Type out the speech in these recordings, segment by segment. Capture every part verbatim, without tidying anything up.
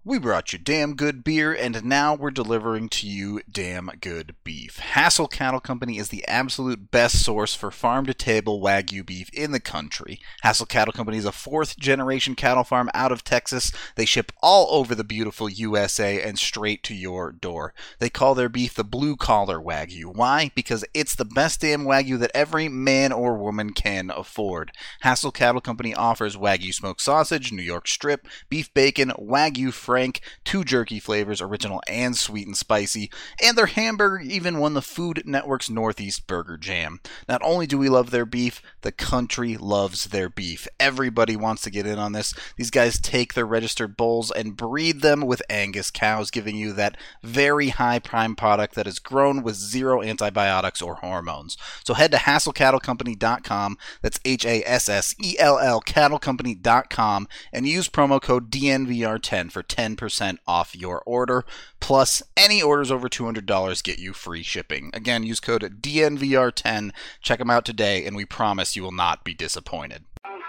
We brought you damn good beer, and now we're delivering to you damn good beef. Hassel Cattle Company is the absolute best source for farm-to-table Wagyu beef in the country. Hassel Cattle Company is a fourth-generation cattle farm out of Texas. They ship all over the beautiful U S A and straight to your door. They call their beef the blue-collar Wagyu. Why? Because it's the best damn Wagyu that every man or woman can afford. Hassel Cattle Company offers Wagyu smoked sausage, New York strip, beef bacon, Wagyu Frank, two jerky flavors, original and sweet and spicy, and their hamburger even won the Food Network's Northeast Burger Jam. Not only do we love their beef, the country loves their beef. Everybody wants to get in on this. These guys take their registered bulls and breed them with Angus cows, giving you that very high prime product that is grown with zero antibiotics or hormones. So head to hassel cattle company dot com, that's H A S S E L L cattle company dot com, and use promo code D N V R ten for ten percent off your order. Plus, any orders over two hundred dollars get you free shipping. Again, use code D N V R ten. Check them out today, and we promise you will not be disappointed.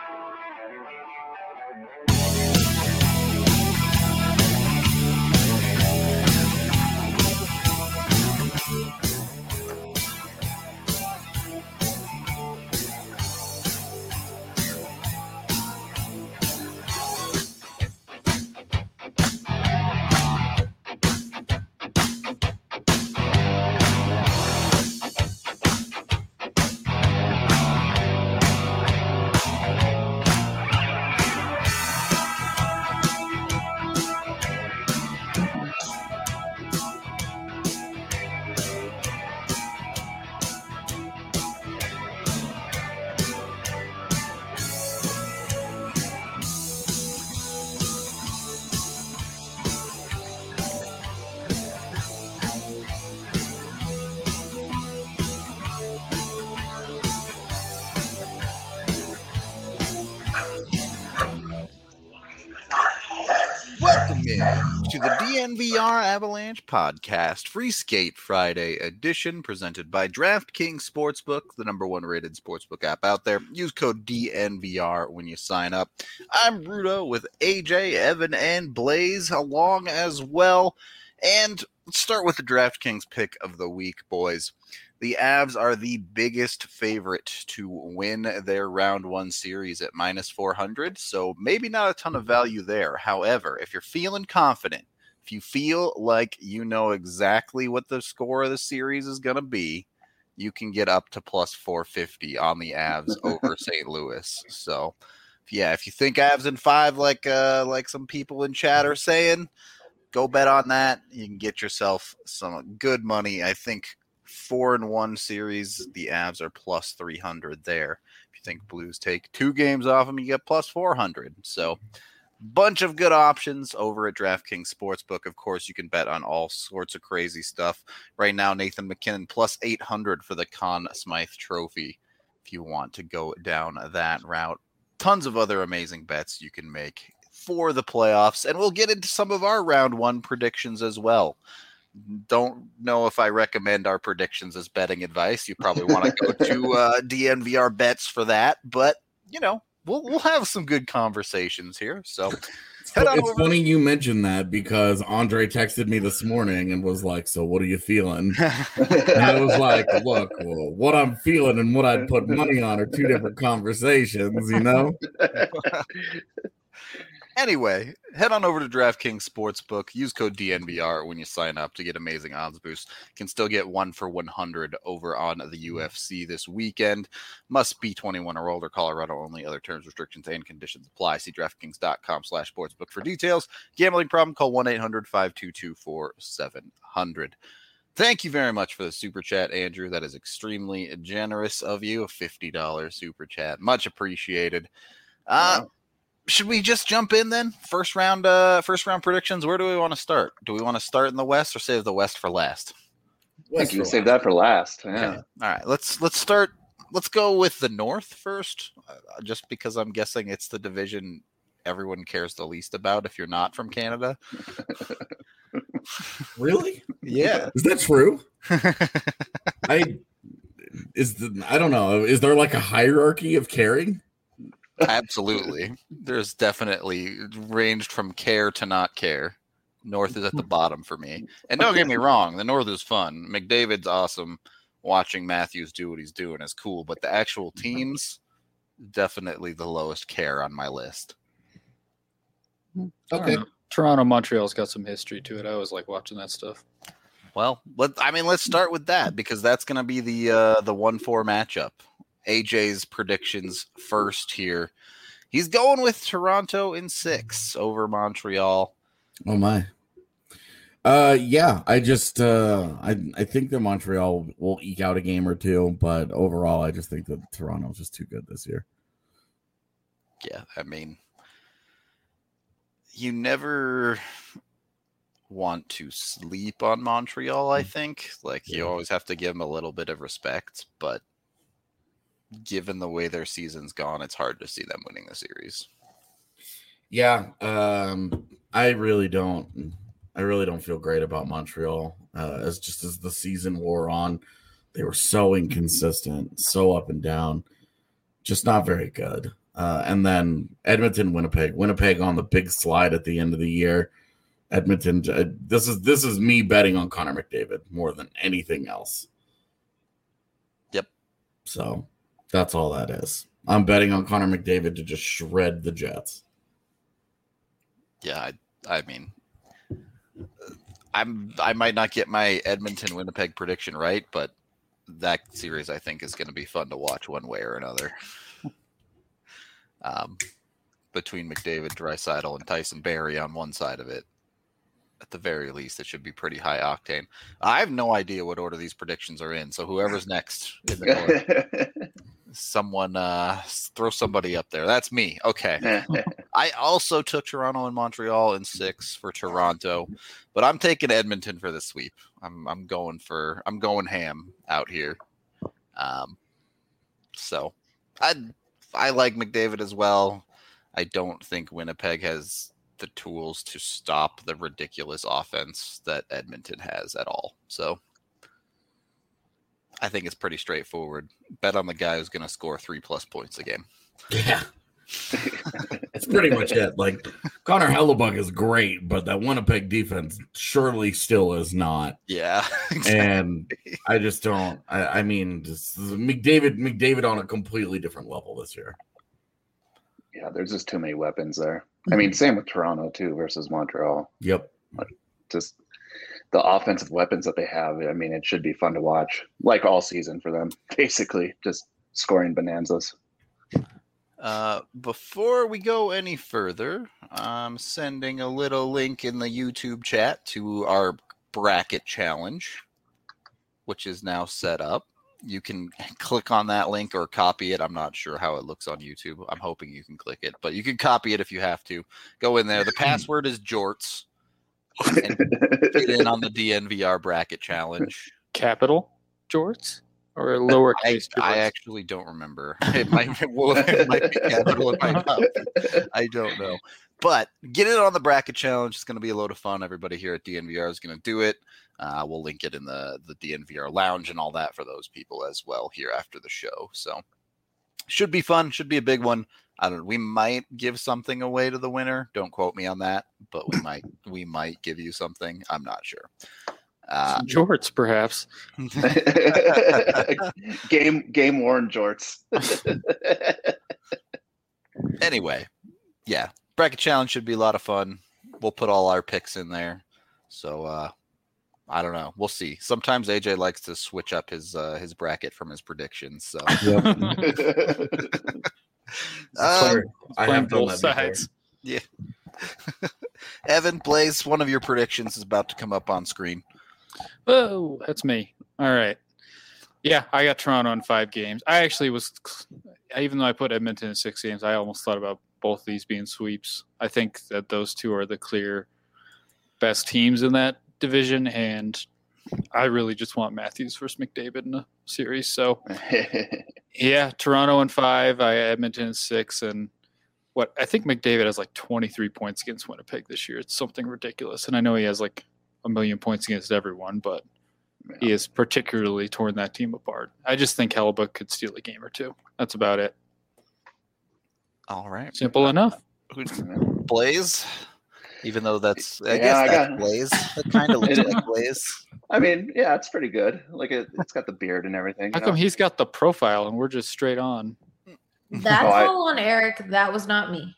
To the D N V R Avalanche Podcast, Free Skate Friday edition, presented by DraftKings Sportsbook, the number one rated sportsbook app out there. Use code D N V R when you sign up. I'm Rudo with A J, Evan, and Blaze along as well. And let's start with the DraftKings pick of the week, boys. The Avs are the biggest favorite to win their round one series at minus four hundred, so maybe not a ton of value there. However, if you're feeling confident, if you feel like you know exactly what the score of the series is going to be, you can get up to plus four fifty on the Avs over Saint Louis. So, yeah, if you think Avs in five, like uh, like some people in chat are saying, go bet on that. You can get yourself some good money. I think four and one series, the Avs are plus three hundred there. If you think Blues take two games off them, you get plus four hundred. So bunch of good options over at DraftKings Sportsbook. Of course, you can bet on all sorts of crazy stuff. Right now, Nathan MacKinnon plus eight hundred for the Conn Smythe Trophy if you want to go down that route. Tons of other amazing bets you can make for the playoffs, and we'll get into some of our round one predictions as well. Don't know if I recommend our predictions as betting advice. You probably want to go to uh, D N V R bets for that, but you know, we'll we'll have some good conversations here. So head on it's over. Funny you mentioned that because Andre texted me this morning and was like, "So what are you feeling?" And I was like, "Look, well, what I'm feeling and what I'd put money on are two different conversations, you know." Anyway, head on over to DraftKings Sportsbook. Use code D N V R when you sign up to get amazing odds boosts. You can still get one for one hundred over on the U F C this weekend. Must be twenty-one or older. Colorado only. Other terms, restrictions, and conditions apply. See DraftKings.com slash sportsbook for details. Gambling problem? Call one eight hundred five two two four seven zero zero. Thank you very much for the super chat, Andrew. That is extremely generous of you. A fifty dollars super chat. Much appreciated. Uh, wow. Should we just jump in then? First round, uh, first round predictions. Where do we want to start? Do we want to start in the West or save the West for last? I think you can save that for last. Yeah. Okay. All right. Let's let's start. Let's go with the North first, uh, just because I'm guessing it's the division everyone cares the least about. If you're not from Canada, really? Yeah. Is that true? I is the I don't know. Is there like a hierarchy of caring? Absolutely. There's definitely ranged from care to not care. North is at the bottom for me. And don't get me wrong, the North is fun. McDavid's awesome. Watching Matthews do what he's doing is cool, but the actual teams, definitely the lowest care on my list. Okay. Toronto, Montreal's got some history to it. I always like watching that stuff. Well, let I mean, let's start with that because that's going to be the uh, the one four matchup. A J's predictions first here. He's going with Toronto in six over Montreal. Oh my. Uh, yeah, I just uh, I I think that Montreal will eke out a game or two, but overall, I just think that Toronto's just too good this year. Yeah, I mean, you never want to sleep on Montreal, I think. Like, you always have to give them a little bit of respect, but given the way their season's gone, it's hard to see them winning the series. Yeah, um, I really don't. I really don't feel great about Montreal. Uh, as just as the season wore on, they were so inconsistent, so up and down, just not very good. Uh, and then Edmonton, Winnipeg, Winnipeg on the big slide at the end of the year. Edmonton. Uh, this is this is me betting on Connor McDavid more than anything else. Yep. So that's all that is. I'm betting on Connor McDavid to just shred the Jets. Yeah, I, I mean, I'm I might not get my Edmonton Winnipeg prediction right, but that series I think is going to be fun to watch one way or another. Um, between McDavid, Draisaitl, and Tyson Barrie on one side of it, at the very least, it should be pretty high octane. I have no idea what order these predictions are in, so whoever's next in the order, someone uh, throw somebody up there. That's me. Okay. I also took Toronto and Montreal in six for Toronto, but I'm taking Edmonton for the sweep. I'm I'm going for I'm going ham out here. Um, so I I like McDavid as well. I don't think Winnipeg has the tools to stop the ridiculous offense that Edmonton has at all. So I think it's pretty straightforward. Bet on the guy who's going to score three plus points a game. Yeah. That's pretty much it. Like, Connor Hellebuyck is great, but that Winnipeg defense surely still is not. Yeah. Exactly. And I just don't. I, I mean, just McDavid, McDavid on a completely different level this year. Yeah, there's just too many weapons there. I mean, same with Toronto too versus Montreal. Yep. Like, just the offensive weapons that they have. I mean, it should be fun to watch, like all season for them. Basically, just scoring bonanzas. Uh, before we go any further, I'm sending a little link in the YouTube chat to our bracket challenge, which is now set up. You can click on that link or copy it. I'm not sure how it looks on YouTube. I'm hoping you can click it, but you can copy it if you have to. Go in there. The password is Jorts. And get in on the D N V R bracket challenge. Capital Jorts? Or lower case? I, I actually don't remember. It might, well, it might be capital. It might not be. I don't know. But get in on the bracket challenge. It's going to be a load of fun. Everybody here at D N V R is going to do it. Uh, we'll link it in the, the D N V R lounge and all that for those people as well here after the show. So should be fun. Should be a big one. I don't know. We might give something away to the winner. Don't quote me on that, but we might we might give you something. I'm not sure. Uh, jorts, perhaps. game game worn jorts. Anyway, yeah, bracket challenge should be a lot of fun. We'll put all our picks in there. So uh, I don't know. We'll see. Sometimes A J likes to switch up his uh, his bracket from his predictions. So Yep. um, I have done that sides. Yeah. Evan, Blaze, one of your predictions is about to come up on screen. Oh, that's me. All right. Yeah, I got Toronto in five games. I actually was, even though I put Edmonton in six games, I almost thought about both of these being sweeps. I think that those two are the clear best teams in that division, and I really just want Matthews versus McDavid in the series. So, yeah, Toronto in five, I Edmonton in six, and what I think McDavid has like twenty-three points against Winnipeg this year. It's something ridiculous, and I know he has like a million points against everyone, but yeah. He has particularly torn that team apart. I just think Hellebuyck could steal a game or two. That's about it. All right. Simple enough. Blaze? Even though that's, I Yeah, guess I that's got- Blaze. It kind of looks It- like Blaze. I mean, yeah, it's pretty good. Like it, it's got the beard and everything. How you come know? he's got the profile and we're just straight on? That's Oh, I- all on Eric. That was not me.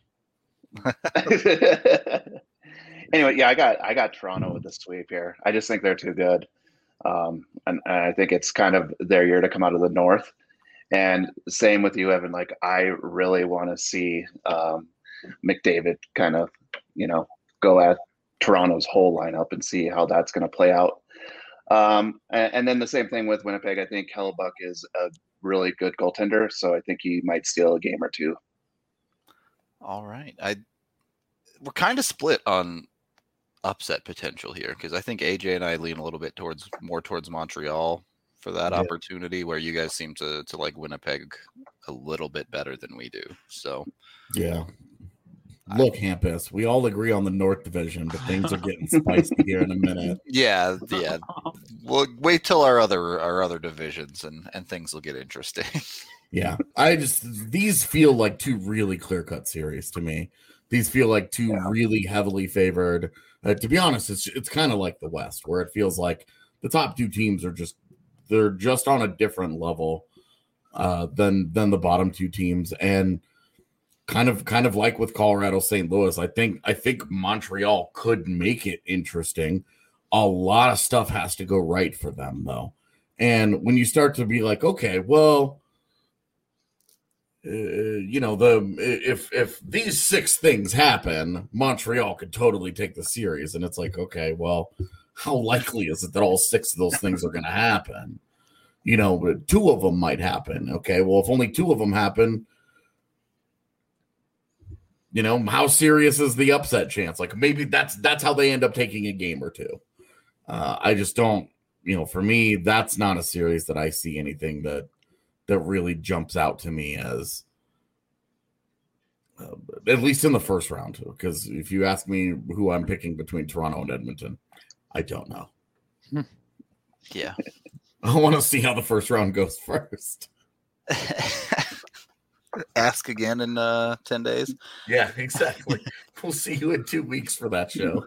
Anyway, yeah, I got I got Toronto with the sweep here. I just think they're too good, um, and, and I think it's kind of their year to come out of the North. And same with you, Evan. Like I really want to see um, McDavid kind of, you know, go at Toronto's whole lineup and see how that's going to play out. Um, and, and then the same thing with Winnipeg. I think Hellebuck is a really good goaltender, so I think he might steal a game or two. All right. I we're kind of split on upset potential here because I think A J and I lean a little bit towards more towards Montreal for that Yeah. opportunity, where you guys seem to to like Winnipeg a little bit better than we do. So Yeah. Look, Hampus, we all agree on the North Division, but things are getting spicy here in a minute. yeah, yeah. We'll wait till our other our other divisions and and things will get interesting. Yeah, I just these feel like two really clear-cut series to me. These feel like two Yeah. really heavily favored. Uh, to be honest, it's it's kind of like the West, where it feels like the top two teams are just they're just on a different level uh, than than the bottom two teams, and kind of kind of like with Colorado, Saint Louis. I think I think Montreal could make it interesting. A lot of stuff has to go right for them, though, and when you start to be like, okay, well. Uh, you know, the if if these six things happen, Montreal could totally take the series, and it's like, okay, well, how likely is it that all six of those things are going to happen? You know, two of them might happen. Okay, well, if only two of them happen, you know, how serious is the upset chance? Like maybe that's that's how they end up taking a game or two. Uh, I just don't, you know, for me, that's not a series that I see anything that. that really jumps out to me as uh, at least in the first round, because if you ask me who I'm picking between Toronto and Edmonton, I don't know. Yeah. I want to see how the first round goes first. Ask again in uh, ten days. Yeah, exactly. We'll see you in two weeks for that show.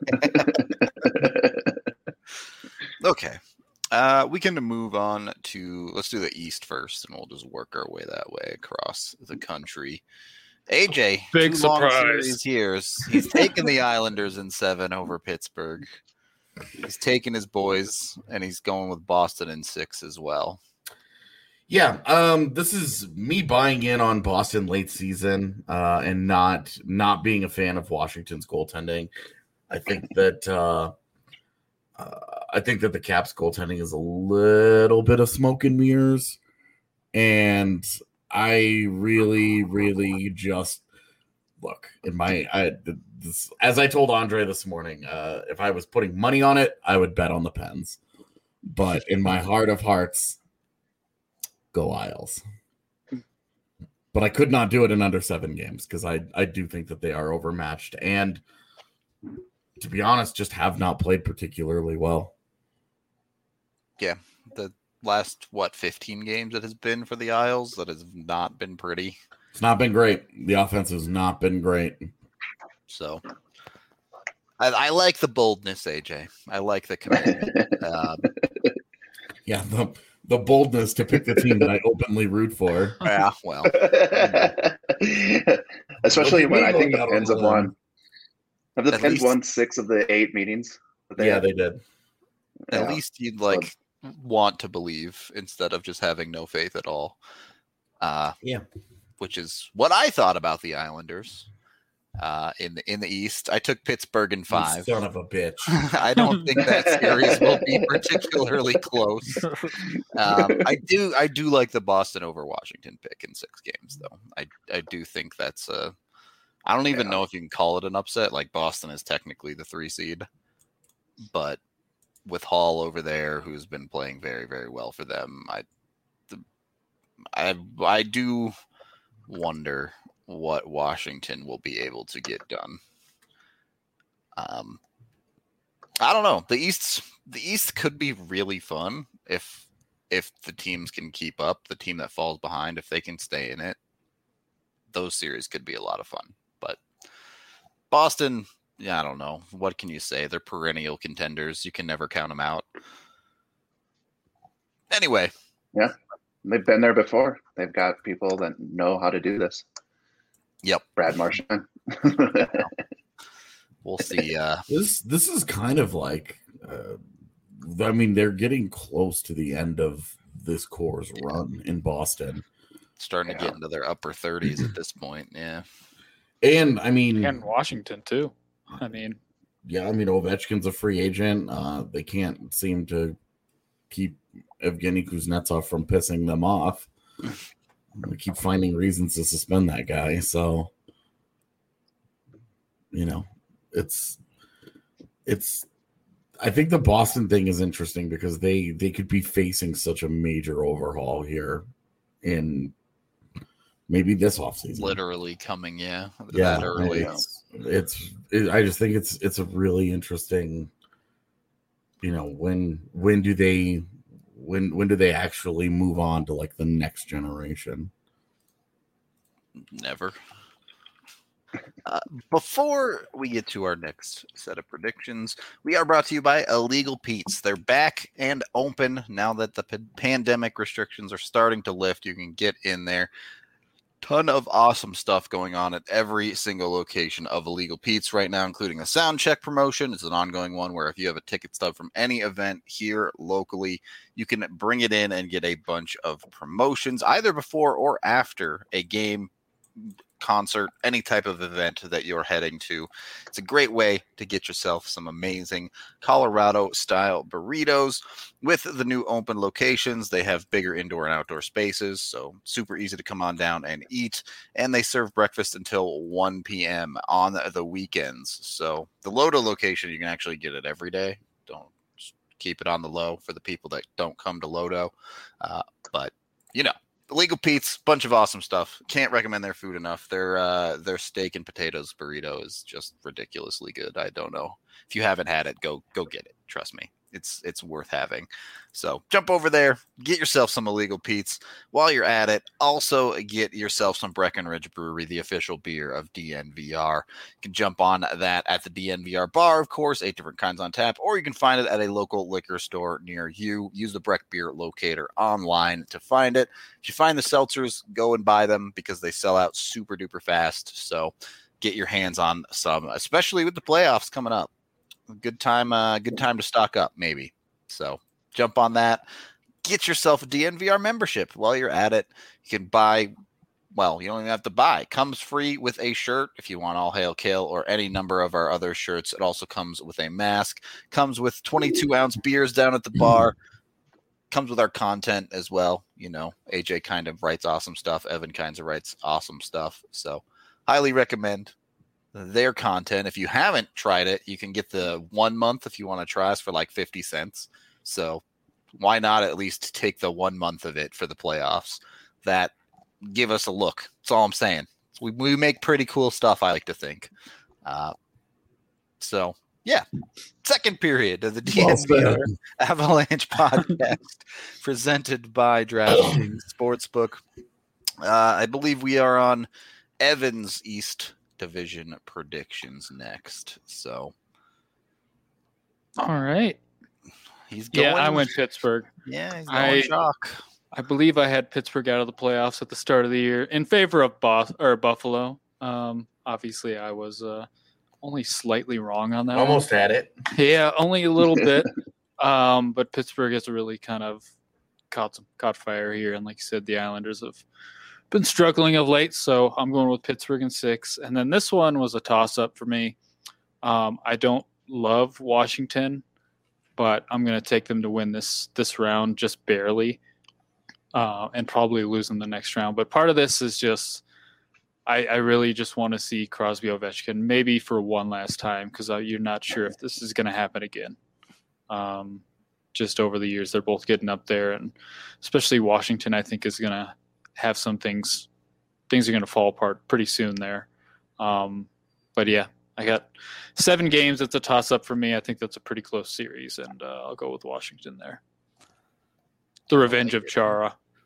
Okay. Uh, we can move on to let's do the East first, and we'll just work our way that way across the country. A J, Big two long surprise. series here. He's taken the Islanders in seven over Pittsburgh. He's taking his boys, and he's going with Boston in six as well. Yeah, um, this is me buying in on Boston late season uh, and not not being a fan of Washington's goaltending. I think that. Uh, Uh, I think that the Caps goaltending is a little bit of smoke and mirrors, and I really, really just look in my. I this, as I told Andre this morning, uh, if I was putting money on it, I would bet on the Pens, but in my heart of hearts, go Isles. But I could not do it in under seven games because I I do think that they are overmatched and. To be honest, just have not played particularly well. Yeah, the last what fifteen games it has been for the Isles that has not been pretty. It's not been great. The offense has not been great. So I, I like the boldness, A J. I like the commitment. um, Yeah, the the boldness to pick the team that I openly root for. yeah, well, Especially when I think Going the out on Pens a have limb. won. Have the At Pens least- won six of the eight meetings? that they Yeah, had? they did. at Yeah. least you'd like want to believe instead of just having no faith at all. Uh, Yeah. which is what I thought about the Islanders uh, in the in the East. I took Pittsburgh in You five. son of a bitch. I don't think that series will be particularly close. Um, I do I do like the Boston over Washington pick in six games, though. I I do think that's a. I don't even Yeah. know if you can call it an upset. Like Boston is technically the three seed, but with Hall over there, who's been playing very very well for them, I the, I I do wonder what Washington will be able to get done. Um, I don't know. The East, the East could be really fun if if the teams can keep up. The team that falls behind, if they can stay in it, those series could be a lot of fun. But Boston, yeah, I don't know. What can you say? They're perennial contenders. You can never count them out. Anyway. Yeah. They've been there before. They've got people that know how to do this. Yep. Brad Marchand. We'll see. Uh, this this is kind of like, uh, I mean, they're getting close to the end of this core's run in Boston. Starting Yeah. to get into their upper thirties at this point. Yeah. And, I mean... And Washington, too. I mean... Yeah, I mean, Ovechkin's a free agent. Uh, they can't seem to keep Evgeny Kuznetsov from pissing them off. We keep finding reasons to suspend that guy. So, you know, it's it's. I think the Boston thing is interesting because they they could be facing such a major overhaul here in maybe this offseason. Literally coming, yeah. Yeah, That early. it's it's. It, I just think it's it's a really interesting. You know, when when do they when when do they actually move on to like the next generation? Never. Uh, before we get to our next set of predictions, we are brought to you by Illegal Pete's. They're back and open now that the p- pandemic restrictions are starting to lift. You can get in there. Ton of awesome stuff going on at every single location of Illegal Pete's right now, including a sound check promotion. It's an ongoing one where if you have a ticket stub from any event here locally, you can bring it in and get a bunch of promotions either before or after a game, concert, any type of event that you're heading to. It's a great way to get yourself some amazing Colorado style burritos. With the new open locations, they have bigger indoor and outdoor spaces, so super easy to come on down and eat. And they serve breakfast until one p.m. on the weekends. So the Lodo location, you can actually get it every day. Don't keep it on the low for the people that don't come to Lodo. Uh, but, you know, Illegal Pete's, bunch of awesome stuff. Can't recommend their food enough. Their uh, their steak and potatoes burrito is just ridiculously good. I don't know. If you haven't had it, go go get it. Trust me. It's it's worth having. So jump over there, get yourself some Illegal Pete's. While you're at it, also get yourself some Breckenridge Brewery, the official beer of D N V R. You can jump on that at the D N V R bar, of course, eight different kinds on tap, or you can find it at a local liquor store near you. Use the Breck Beer Locator online to find it. If you find the seltzers, go and buy them because they sell out super duper fast. So get your hands on some, especially with the playoffs coming up. Good time, uh, good time to stock up, maybe. So jump on that. Get yourself a D N V R membership while you're at it. You can buy, well, you don't even have to buy. It comes free with a shirt if you want All Hail Kale or any number of our other shirts. It also comes with a mask. Comes with twenty-two ounce beers down at the bar. Comes with our content as well. You know, A J kind of writes awesome stuff. Evan kind of writes awesome stuff. So highly recommend their content. If you haven't tried it, you can get the one month if you want to try us for like fifty cents. So why not at least take the one month of it for the playoffs? That give us a look. That's all I'm saying. We, we make pretty cool stuff, I like to think. Uh, so yeah, second period of the D N V R Avalanche podcast presented by DraftKings Sportsbook. Uh, I believe we are on Evan's East Division predictions next. So, all right. He's going. Yeah, I went Pittsburgh. Yeah, he's going I, chalk. I believe I had Pittsburgh out of the playoffs at the start of the year in favor of Bos- or Buffalo. Um, obviously, I was uh, only slightly wrong on that. Almost one. had it. Yeah, only a little bit. Um, but Pittsburgh has really kind of caught some, caught fire here, and like you said, the Islanders have been struggling of late, so I'm going with Pittsburgh in six. And then this one was a toss-up for me. Um, I don't love Washington, but I'm going to take them to win this this round just barely, uh, and probably lose in the next round. But part of this is just I, I really just want to see Crosby Ovechkin maybe for one last time because you're not sure if this is going to happen again. Um, just over the years, they're both getting up there, and especially Washington, I think, is going to have some things things are going to fall apart pretty soon there. Um, but yeah, I got seven games. It's a toss up for me. I think that's a pretty close series, and uh, I'll go with Washington there. The revenge of Chara.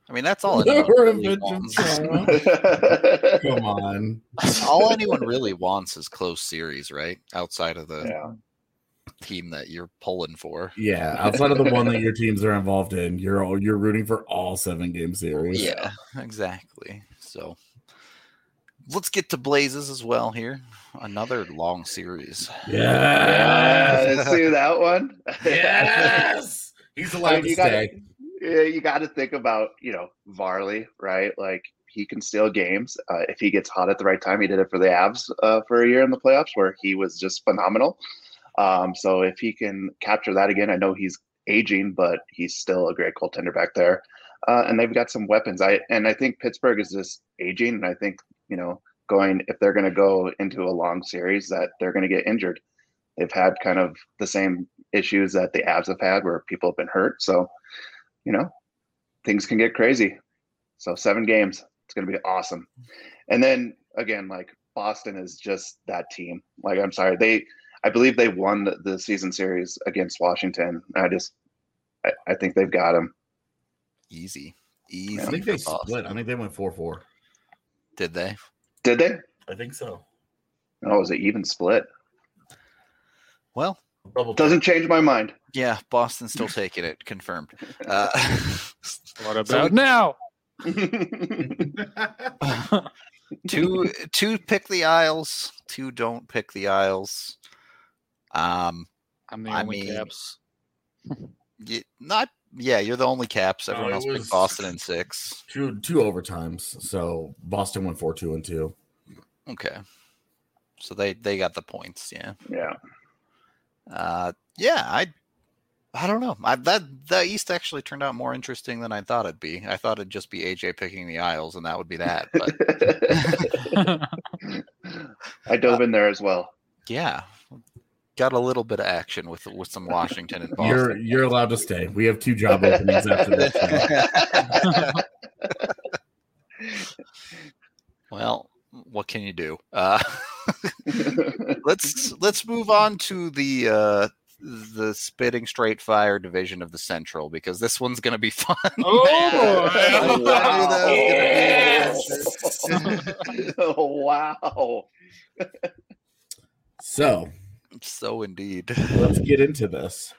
I mean, that's all anyone really Revenge of wants. Sorrow. Come on. All anyone really wants is close series, right? Outside of the Yeah. team that you're pulling for. Yeah, outside of the one that your teams are involved in, you're all, you're rooting for all seven game series. Yeah, exactly. So let's get to Blazes as well here. Another long series. Yeah. Yeah, see that one? Yes. He's allowed I mean, to you stay. gotta, yeah, you got to think about, you know, Varley, right? Like he can steal games uh, if he gets hot at the right time. He did it for the Avs uh, for a year in the playoffs where he was just phenomenal. Um, so if he can capture that again, I know he's aging, but he's still a great goaltender back there. Uh, and they've got some weapons. I and I think Pittsburgh is just aging, and I think you know going if they're going to go into a long series that they're going to get injured. They've had kind of the same issues that the Avs have had, where people have been hurt. So you know things can get crazy. So seven games, it's going to be awesome. And then again, like Boston is just that team. Like I'm sorry, they. I believe they won the, the season series against Washington. I just, I, I think they've got them. Easy, easy. I think for they Boston. split. I think they went four four. Did they? Did they? I think so. Oh, it was an even split. Well, Double check. Doesn't change my mind. yeah, Boston's still taking it. Confirmed. Uh, What about So- now? two, two pick the Isles. Two don't pick the Isles. Um, I'm the I only mean- Caps. y- not. Yeah, you're the only Caps. No, Everyone it else was- picked Boston in six. two two overtimes. So Boston went four two and two. Okay, so they they got the points. Yeah. Yeah. Uh, yeah, I, I don't know. I, that the East actually turned out more interesting than I thought it'd be. I thought it'd just be A J picking the Isles, and that would be that. But I dove in there as well. yeah, got a little bit of action with with some Washington and You're Boston. you're allowed to stay. We have two job openings after this. Well, what can you do? Uh, let's let's move on to the uh, the spitting straight fire division of the Central because this one's going to be fun. Oh, I knew that was gonna be an Oh, wow. So So indeed. let's get into this.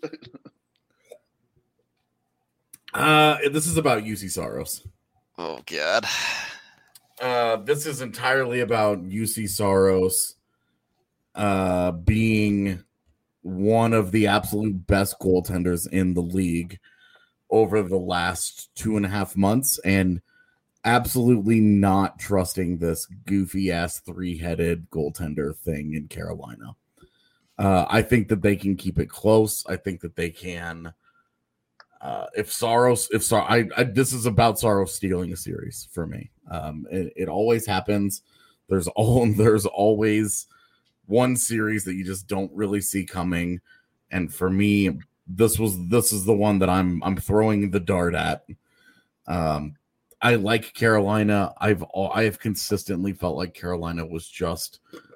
Uh, this is about U C Saros. Oh God. Uh, this is entirely about U C Saros uh, being one of the absolute best goaltenders in the league over the last two and a half months and absolutely not trusting this goofy ass three headed goaltender thing in Carolina. Uh, I think that they can keep it close. I think that they can. Uh, if Saros, if Sar, I, I, this is about Saros stealing a series for me. Um, it, it always happens. There's all there's always one series that you just don't really see coming, and for me, this was this is the one that I'm I'm throwing the dart at. Um, I like Carolina. I've I have consistently felt like Carolina was just.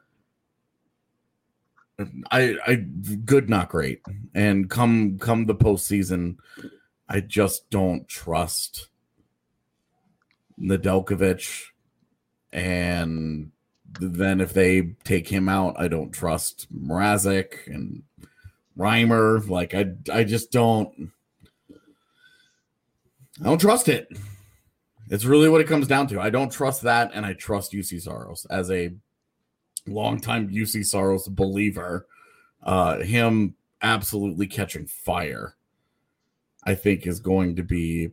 I I good, not great, and come come the postseason, I just don't trust Nedeljkovic, and then if they take him out, I don't trust Mrazek and Reimer. Like I I just don't I don't trust it. It's really what it comes down to. I don't trust that, and I trust U C Saros as a longtime U C Saros believer. Uh, him absolutely catching fire, I think, is going to be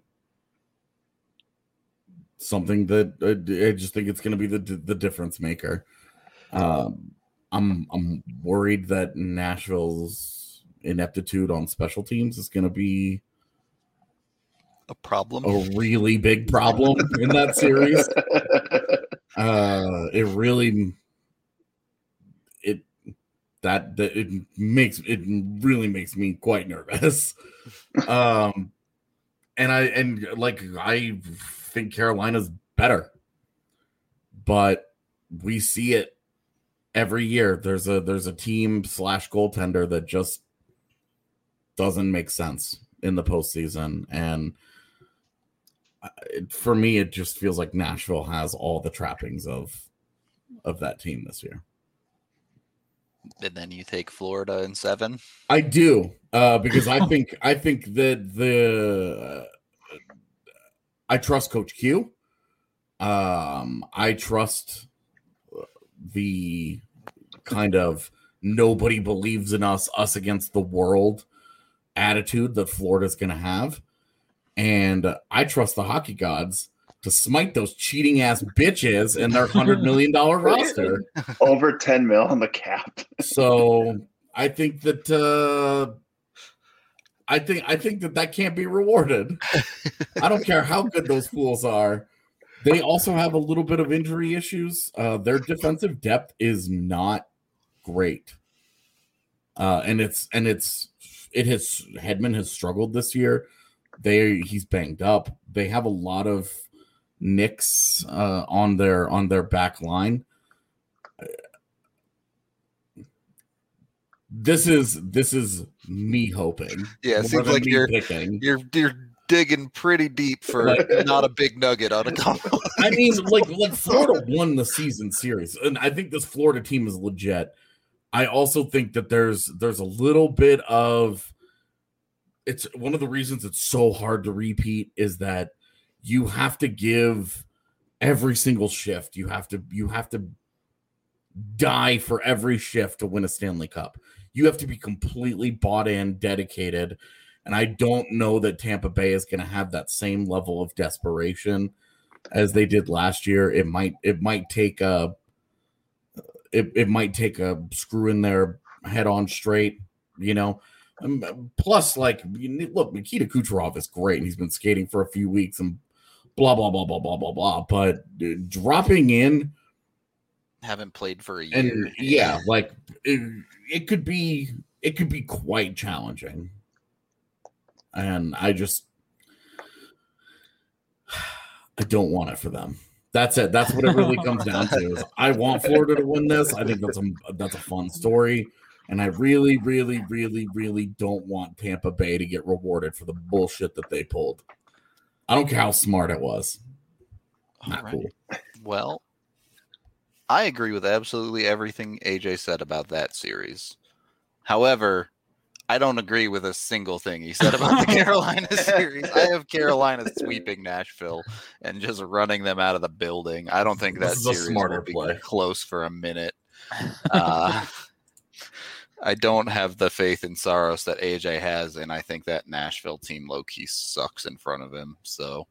something that uh, I just think it's going to be the the difference maker. Um, I'm I'm worried that Nashville's ineptitude on special teams is going to be A problem. a really big problem in that series. Uh, it really it that, that it makes it really makes me quite nervous. Um, and I and like I think Carolina's better, but we see it every year. There's a there's a team slash goaltender that just doesn't make sense in the postseason, and for me, it just feels like Nashville has all the trappings of of that team this year. And then you take Florida in seven. I do, uh, because I think I think that the uh, I trust Coach Q. Um, I trust the kind of nobody believes in us, us against the world attitude that Florida's going to have. And uh, I trust the hockey gods to smite those cheating ass bitches in their one hundred million dollars roster. Over ten mil on the cap. So I think that uh, I think I think that that can't be rewarded. I don't care how good those fools are. They also have a little bit of injury issues. Uh, their defensive depth is not great, uh, and it's and it's it has Hedman has struggled this year. They he's banged up. They have a lot of nicks uh, on their on their back line. This is this is me hoping. Yeah, it seems like you're, picking. you're you're digging pretty deep for like, not a big nugget on a couple. I mean, like like Florida won the season series, and I think this Florida team is legit. I also think that there's there's a little bit of it's one of the reasons it's so hard to repeat is that you have to give every single shift. You have to you have to die for every shift to win a Stanley Cup. You have to be completely bought in, dedicated. And I don't know that Tampa Bay is going to have that same level of desperation as they did last year. It might it might take a it, it might take a screw in their head on straight, you know. Um, plus, like, look, Nikita Kucherov is great, and he's been skating for a few weeks, and blah blah blah blah blah blah blah. But uh, dropping in, haven't played for a year, and yeah, like it, it could be it could be quite challenging. And I just, I don't want it for them. That's it. That's what it really comes down to. Is I want Florida to win this. I think that's a that's a fun story, and I really, really, really, really don't want Tampa Bay to get rewarded for the bullshit that they pulled. I don't care how smart it was. Not right. cool. Well, I agree with absolutely everything A J said about that series. However, I don't agree with a single thing he said about the Carolina series. I have Carolina sweeping Nashville and just running them out of the building. I don't think that This is a series smarter will be play. close for a minute. Uh, I don't have the faith in Saros that A J has, and I think that Nashville team low-key sucks in front of him. So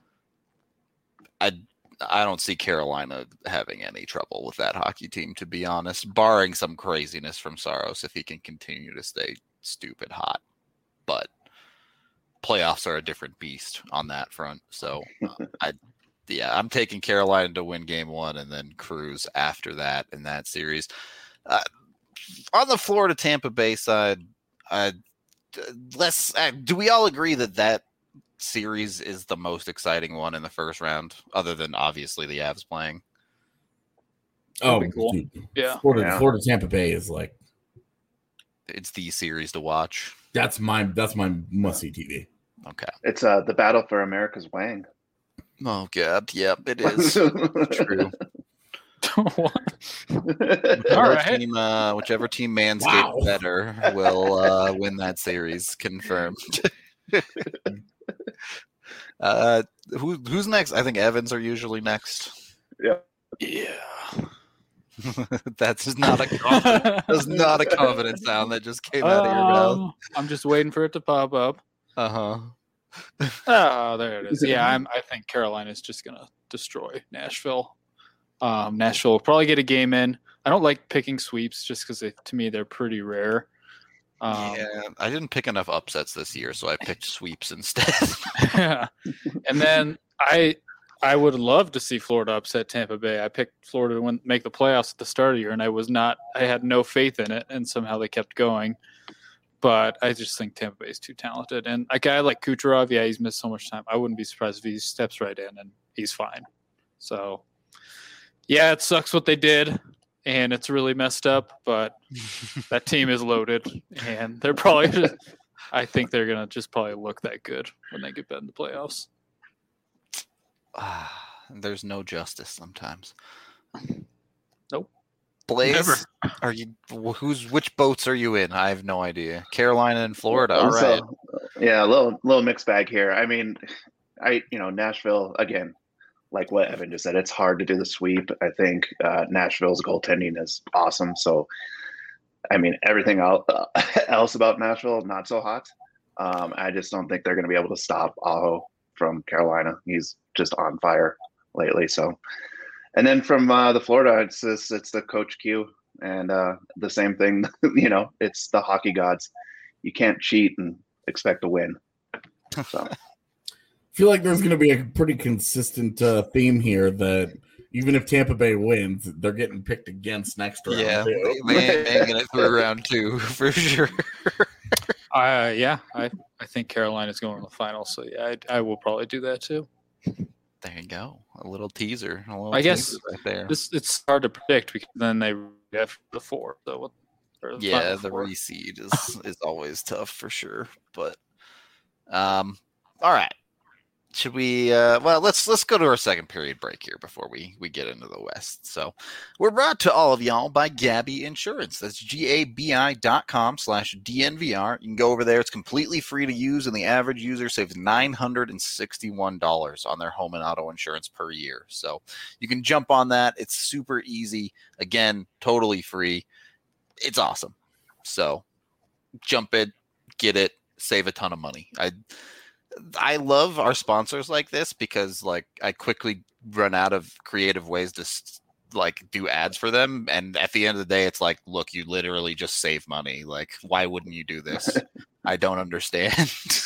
I I don't see Carolina having any trouble with that hockey team, to be honest, barring some craziness from Saros if he can continue to stay stupid hot. But playoffs are a different beast on that front. So uh, I yeah, I'm taking Carolina to win game one and then cruise after that in that series. Uh, on the Florida Tampa Bay side, uh, let's uh, do we all agree that that series is the most exciting one in the first round, other than obviously the Avs playing? Oh, That'd be cool. dude. Yeah. Florida, Yeah. Florida Tampa Bay is like It's the series to watch. that's my that's my must see T V. Okay. It's uh, the battle for America's Wang. Oh god, yep, it is true. What? Whichever All right. team, uh, whichever team manscaped Wow. better will uh, win that series. Confirmed. uh, who who's next? I think Evans are usually next. Yeah. Yeah. That's just not a confident, that's not a confident sound that just came out of your mouth. Um, I'm just waiting for it to pop up. Uh huh. Oh, there it is. Yeah, I'm, I think Carolina's just gonna destroy Nashville. Um, Nashville will probably get a game in. I don't like picking sweeps just because to me they're pretty rare. Um, Yeah, I didn't pick enough upsets this year, so I picked sweeps instead. yeah. And then I I would love to see Florida upset Tampa Bay. I picked Florida to win, make the playoffs at the start of the year, and I was not. I had no faith in it, and somehow they kept going. But I just think Tampa Bay is too talented. And a guy like Kucherov, yeah, he's missed so much time. I wouldn't be surprised if he steps right in and he's fine. So, yeah, it sucks what they did, and it's really messed up. But that team is loaded, and they're probably just, I think they're going to just probably look that good when they get back in the playoffs. Ah, there's no justice sometimes. Nope. Blaze, Never. are you? Who's which boats are you in? I have no idea. Carolina and Florida. All So, right. yeah, a little little mixed bag here. I mean, I you know Nashville again. Like what Evan just said, it's hard to do the sweep. I think uh, Nashville's goaltending is awesome. So, I mean, everything else, uh, else about Nashville, not so hot. Um, I just don't think they're going to be able to stop Aho from Carolina. He's just on fire lately. So, and then from uh, the Florida, it's this, it's the Coach Q, and uh, the same thing. You know, it's the hockey gods. You can't cheat and expect to win. So. I feel like there's going to be a pretty consistent uh, theme here that even if Tampa Bay wins, they're getting picked against next round. Yeah, too. they ain't making it through round two for sure. Uh, yeah, I, I think Carolina's going to the final, so yeah, I, I will probably do that too. There you go. A little teaser. A little I guess teaser right there. This it's hard to predict because then they have the four. So what? or the Yeah, final the four. reseed is is always tough for sure. But um, all right. Should we uh well let's let's go to our second period break here before we we get into the West. So we're brought to all of y'all by Gabi Insurance. That's G-A-B-I dot com slash D-N-V-R. You can go over there. It's completely free to use, and the average user saves nine hundred sixty-one dollars on their home and auto insurance per year. So you can jump on that. It's super easy. Again, totally free. It's awesome. So jump in, get it, save a ton of money. I I love our sponsors like this because like I quickly run out of creative ways to like do ads for them. And at the end of the day, it's like, look, you literally just save money. Like, why wouldn't you do this? I don't understand.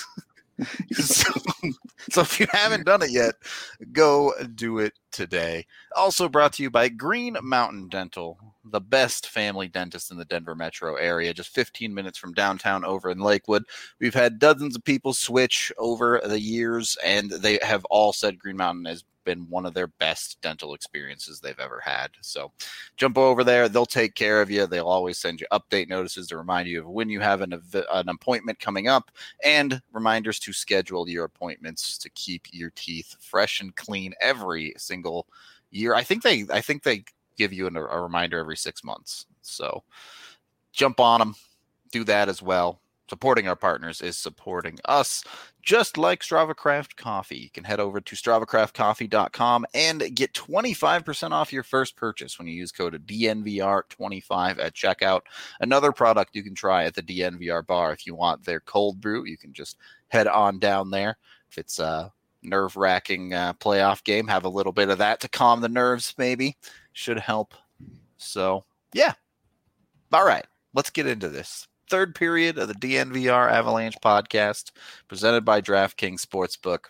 so, so if you haven't done it yet, go do it today. Also brought to you by Green Mountain Dental, the best family dentist in the Denver metro area, just fifteen minutes from downtown over in Lakewood. We've had dozens of people switch over the years, and they have all said Green Mountain has been one of their best dental experiences they've ever had. So jump over there. They'll take care of you. They'll always send you update notices to remind you of when you have an, an appointment coming up, and reminders to schedule your appointments to keep your teeth fresh and clean every single year. I think they, I think they give you an, a reminder every six months. So jump on them, do that as well. Supporting our partners is supporting us, just like Strava Craft Coffee. You can head over to strava craft coffee dot com and get twenty-five percent off your first purchase when you use code D N V R twenty-five at checkout. Another product you can try at the D N V R bar if you want their cold brew. You can just head on down there. If it's a nerve-wracking uh, playoff game, have a little bit of that to calm the nerves maybe. Should help. So, yeah. All right, let's get into this. Third period of the D N V R Avalanche podcast presented by DraftKings Sportsbook.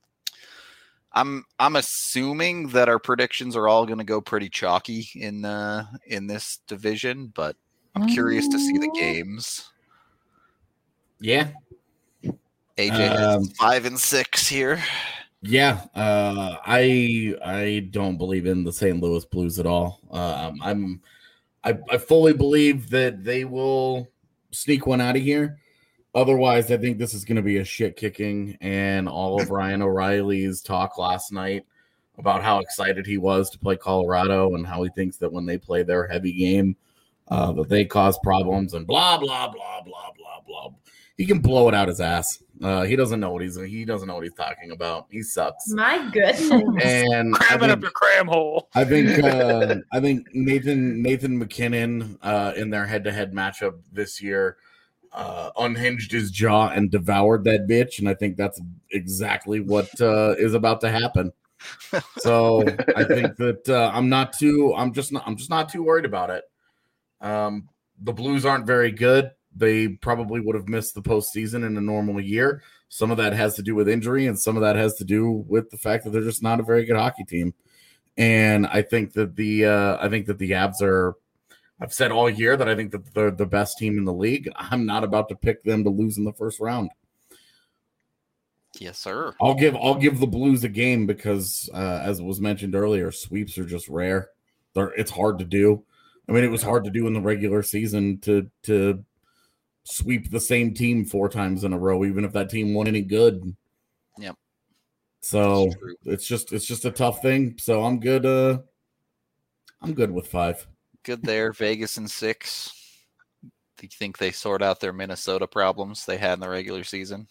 I'm I'm assuming that our predictions are all going to go pretty chalky in uh, in this division, but I'm curious to see the games. Yeah. A J has Um, five and six here. Yeah, uh, I I don't believe in the Saint Louis Blues at all. Um, I'm I, I fully believe that they will sneak one out of here. Otherwise, I think this is going to be a shit kicking. And all of Ryan O'Reilly's talk last night about how excited he was to play Colorado and how he thinks that when they play their heavy game, uh, that they cause problems and blah blah blah blah blah blah. He can blow it out his ass. Uh, he doesn't know what he's he doesn't know what he's talking about. He sucks. My goodness. And I Cram it think, up your cram hole. I think uh, I think Nathan Nathan McKinnon uh, in their head to head matchup this year uh, unhinged his jaw and devoured that bitch, and I think that's exactly what uh, is about to happen. So I think that uh, I'm not too I'm just not I'm just not too worried about it. Um, the Blues aren't very good. They probably would have missed the postseason in a normal year. Some of that has to do with injury, and some of that has to do with the fact that they're just not a very good hockey team. And I think that the uh, I think that the Avs are. I've said all year that I think that they're the best team in the league. I'm not about to pick them to lose in the first round. Yes, sir. I'll give I'll give the Blues a game because, uh, as was mentioned earlier, sweeps are just rare. They're, it's hard to do. I mean, it was hard to do in the regular season to to. sweep the same team four times in a row, even if that team won any good. Yep. So That's true. it's just it's just a tough thing. So I'm good. Uh, I'm good with five. Good there. Vegas in six. Do you think they sort out their Minnesota problems they had in the regular season?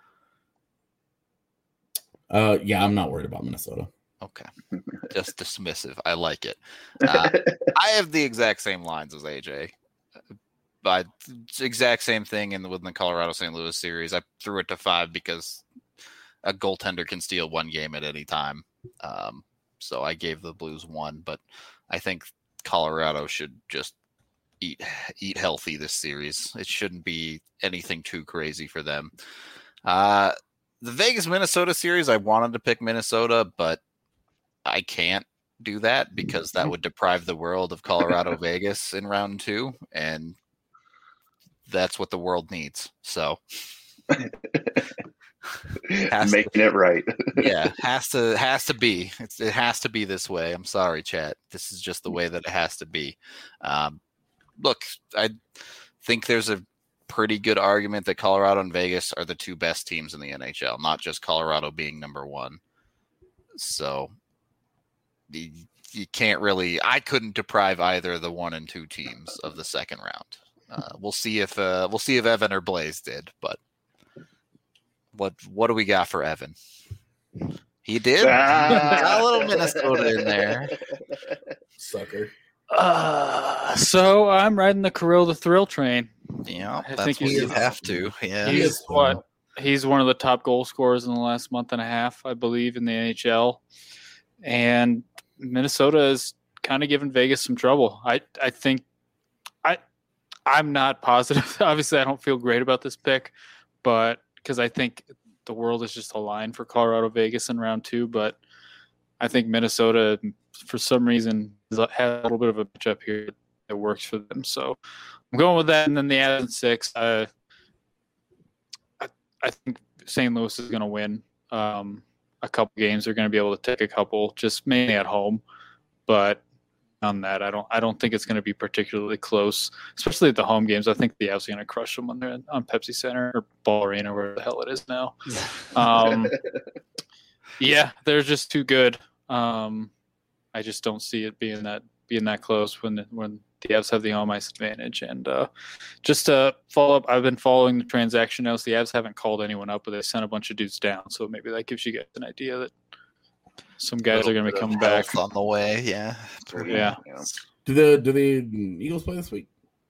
Uh, yeah, I'm not worried about Minnesota. Okay. Just dismissive. I like it. Uh, I have the exact same lines as A J. But exact same thing in the, within the Colorado Saint Louis series. I threw it to five because a goaltender can steal one game at any time. Um, so I gave the Blues one, but I think Colorado should just eat eat healthy this series. It shouldn't be anything too crazy for them. Uh, the Vegas Minnesota series, I wanted to pick Minnesota, but I can't do that because that would deprive the world of Colorado Vegas in round two, and that's what the world needs. So making to, it right. yeah, has to has to be. It's, it has to be this way. I'm sorry, chat. This is just the way that it has to be. Um, look, I think there's a pretty good argument that Colorado and Vegas are the two best teams in the N H L, not just Colorado being number one. So you, you can't really. I couldn't deprive either the one and two teams of the second round. Uh, we'll see if uh, we'll see if Evan or Blaze did, but what what do we got for Evan? He did. Ah. Got a little Minnesota in there, sucker. Uh, so I'm riding the Kirill the Thrill train. Yeah, I that's think what he's, you have to. Yeah, he's what he's one of the top goal scorers in the last month and a half, I believe, in the N H L. And Minnesota is kind of giving Vegas some trouble. I I think I I'm not positive. Obviously, I don't feel great about this pick, but because I think the world is just aligned for Colorado Vegas in round two. But I think Minnesota, for some reason, has a little bit of a matchup here that works for them. So I'm going with that. And then the Avs in six. Uh, I, I think Saint Louis is going to win um, a couple games. They're going to be able to take a couple, just mainly at home. But on that, I don't. I don't think it's going to be particularly close, especially at the home games. I think the Avs are going to crush them when they're on Pepsi Center or Ball Arena, where the hell it is now. Um, yeah, they're just too good. Um, I just don't see it being that being that close when when the Avs have the home ice advantage. And uh, just to follow up, I've been following the transaction notes. The Avs haven't called anyone up, but they sent a bunch of dudes down. So maybe that gives you guys an idea that some guys are going to be coming back on the way. Yeah, yeah. Do the do the Eagles play this week?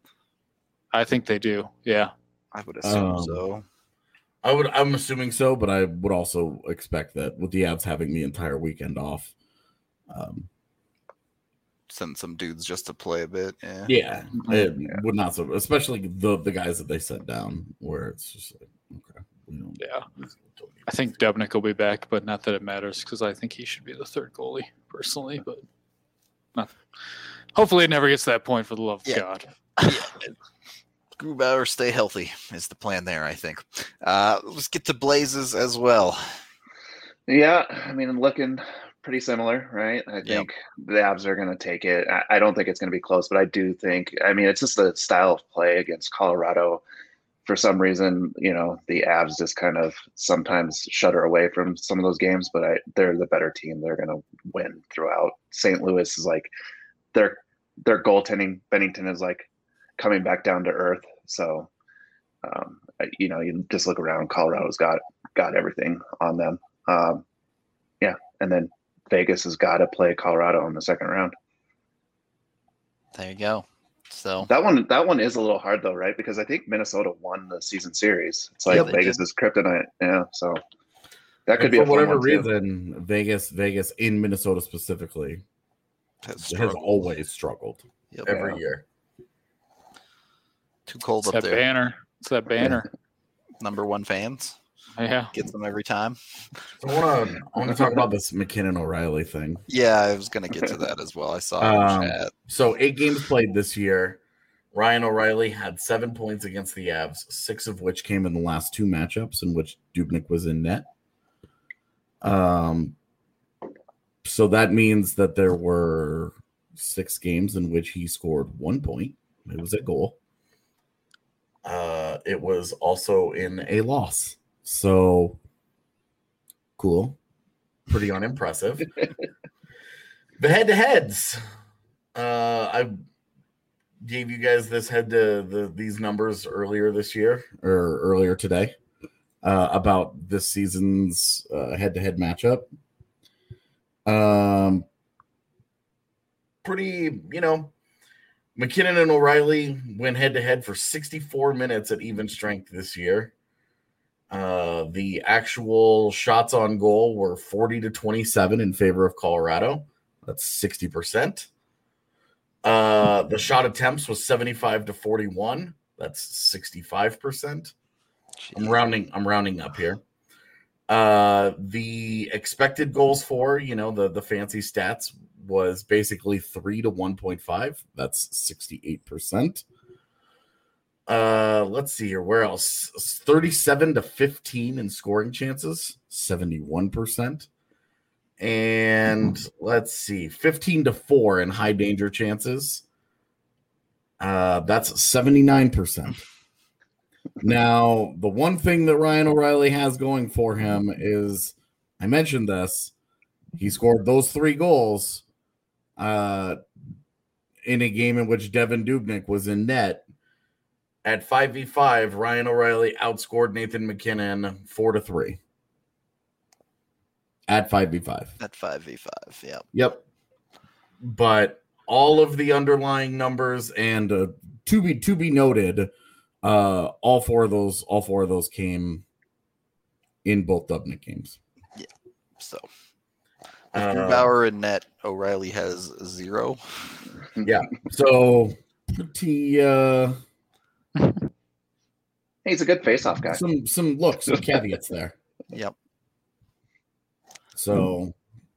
I think they do. Yeah, I would assume um, so. I would. I'm assuming so, but I would also expect that with the Avs having the entire weekend off, um, send some dudes just to play a bit. Yeah, yeah, it yeah. would not so. Especially the the guys that they sent down, where it's just like, okay, we don't, yeah. I think Dubnyk will be back, but not that it matters because I think he should be the third goalie personally. But not, hopefully, it never gets to that point. For the love of yeah. God. Yeah. Grubauer, stay healthy is the plan there, I think. Uh, let's get to Blazes as well. Yeah, I mean, looking pretty similar, right? I think yep. the Avs are going to take it. I, I don't think it's going to be close, but I do think, I mean, it's just the style of play against Colorado. For some reason, you know, the Avs just kind of sometimes shudder away from some of those games, but I, they're the better team. They're going to win throughout. Saint Louis is like, their their goaltending, Bennington is like coming back down to earth. So, um, you know, you just look around. Colorado's got got everything on them. Um, yeah, and then Vegas has got to play Colorado in the second round. There you go. So that one, that one is a little hard though, right? Because I think Minnesota won the season series. It's like yeah, Vegas did. is kryptonite. Yeah, so that could and be for a fun whatever one too. reason. Vegas, Vegas in Minnesota specifically has, has always struggled yep. every yeah. year. Too cold it's up that there. Banner. It's that banner. Number one fans. Yeah, gets them every time. So I want to I want to talk about this McKinnon O'Reilly thing. Yeah, I was going to get to that as well. I saw it um, in chat. So eight games played this year. Ryan O'Reilly had seven points against the Avs, six of which came in the last two matchups in which Dubnyk was in net. Um, so that means that there were six games in which he scored one point. It was a goal. Uh, it was also in a loss. So cool. pretty unimpressive. The head-to-heads. Uh, I gave you guys this head to the these numbers earlier this year or earlier today uh, about this season's uh, head-to-head matchup. Um, pretty, you know, McKinnon and O'Reilly went head-to-head for sixty-four minutes at even strength this year. Uh, the actual shots on goal were forty to twenty-seven in favor of Colorado. That's sixty percent. Uh, the shot attempts was seventy-five to forty-one. That's sixty-five percent. I'm rounding, I'm rounding up here. Uh, the expected goals for, you know, the, the fancy stats was basically three to one point five. That's sixty-eight percent. Uh, let's see here. Where else? thirty-seven to fifteen in scoring chances, seventy-one percent. And let's see, fifteen to four in high danger chances. Uh, that's seventy-nine percent. Now, the one thing that Ryan O'Reilly has going for him is, I mentioned this, he scored those three goals uh, in a game in which Devin Dubnyk was in net. At five v five, Ryan O'Reilly outscored Nathan McKinnon four to three. At five v five. At five v five, yeah. Yep. But all of the underlying numbers and uh, to be to be noted, uh, all four of those all four of those came in both Dubnyk games. Yeah. So Uh, Grubauer and net, O'Reilly has zero. Yeah. So pretty uh Hey, he's a good face-off guy. some some look, some caveats there. Yep. So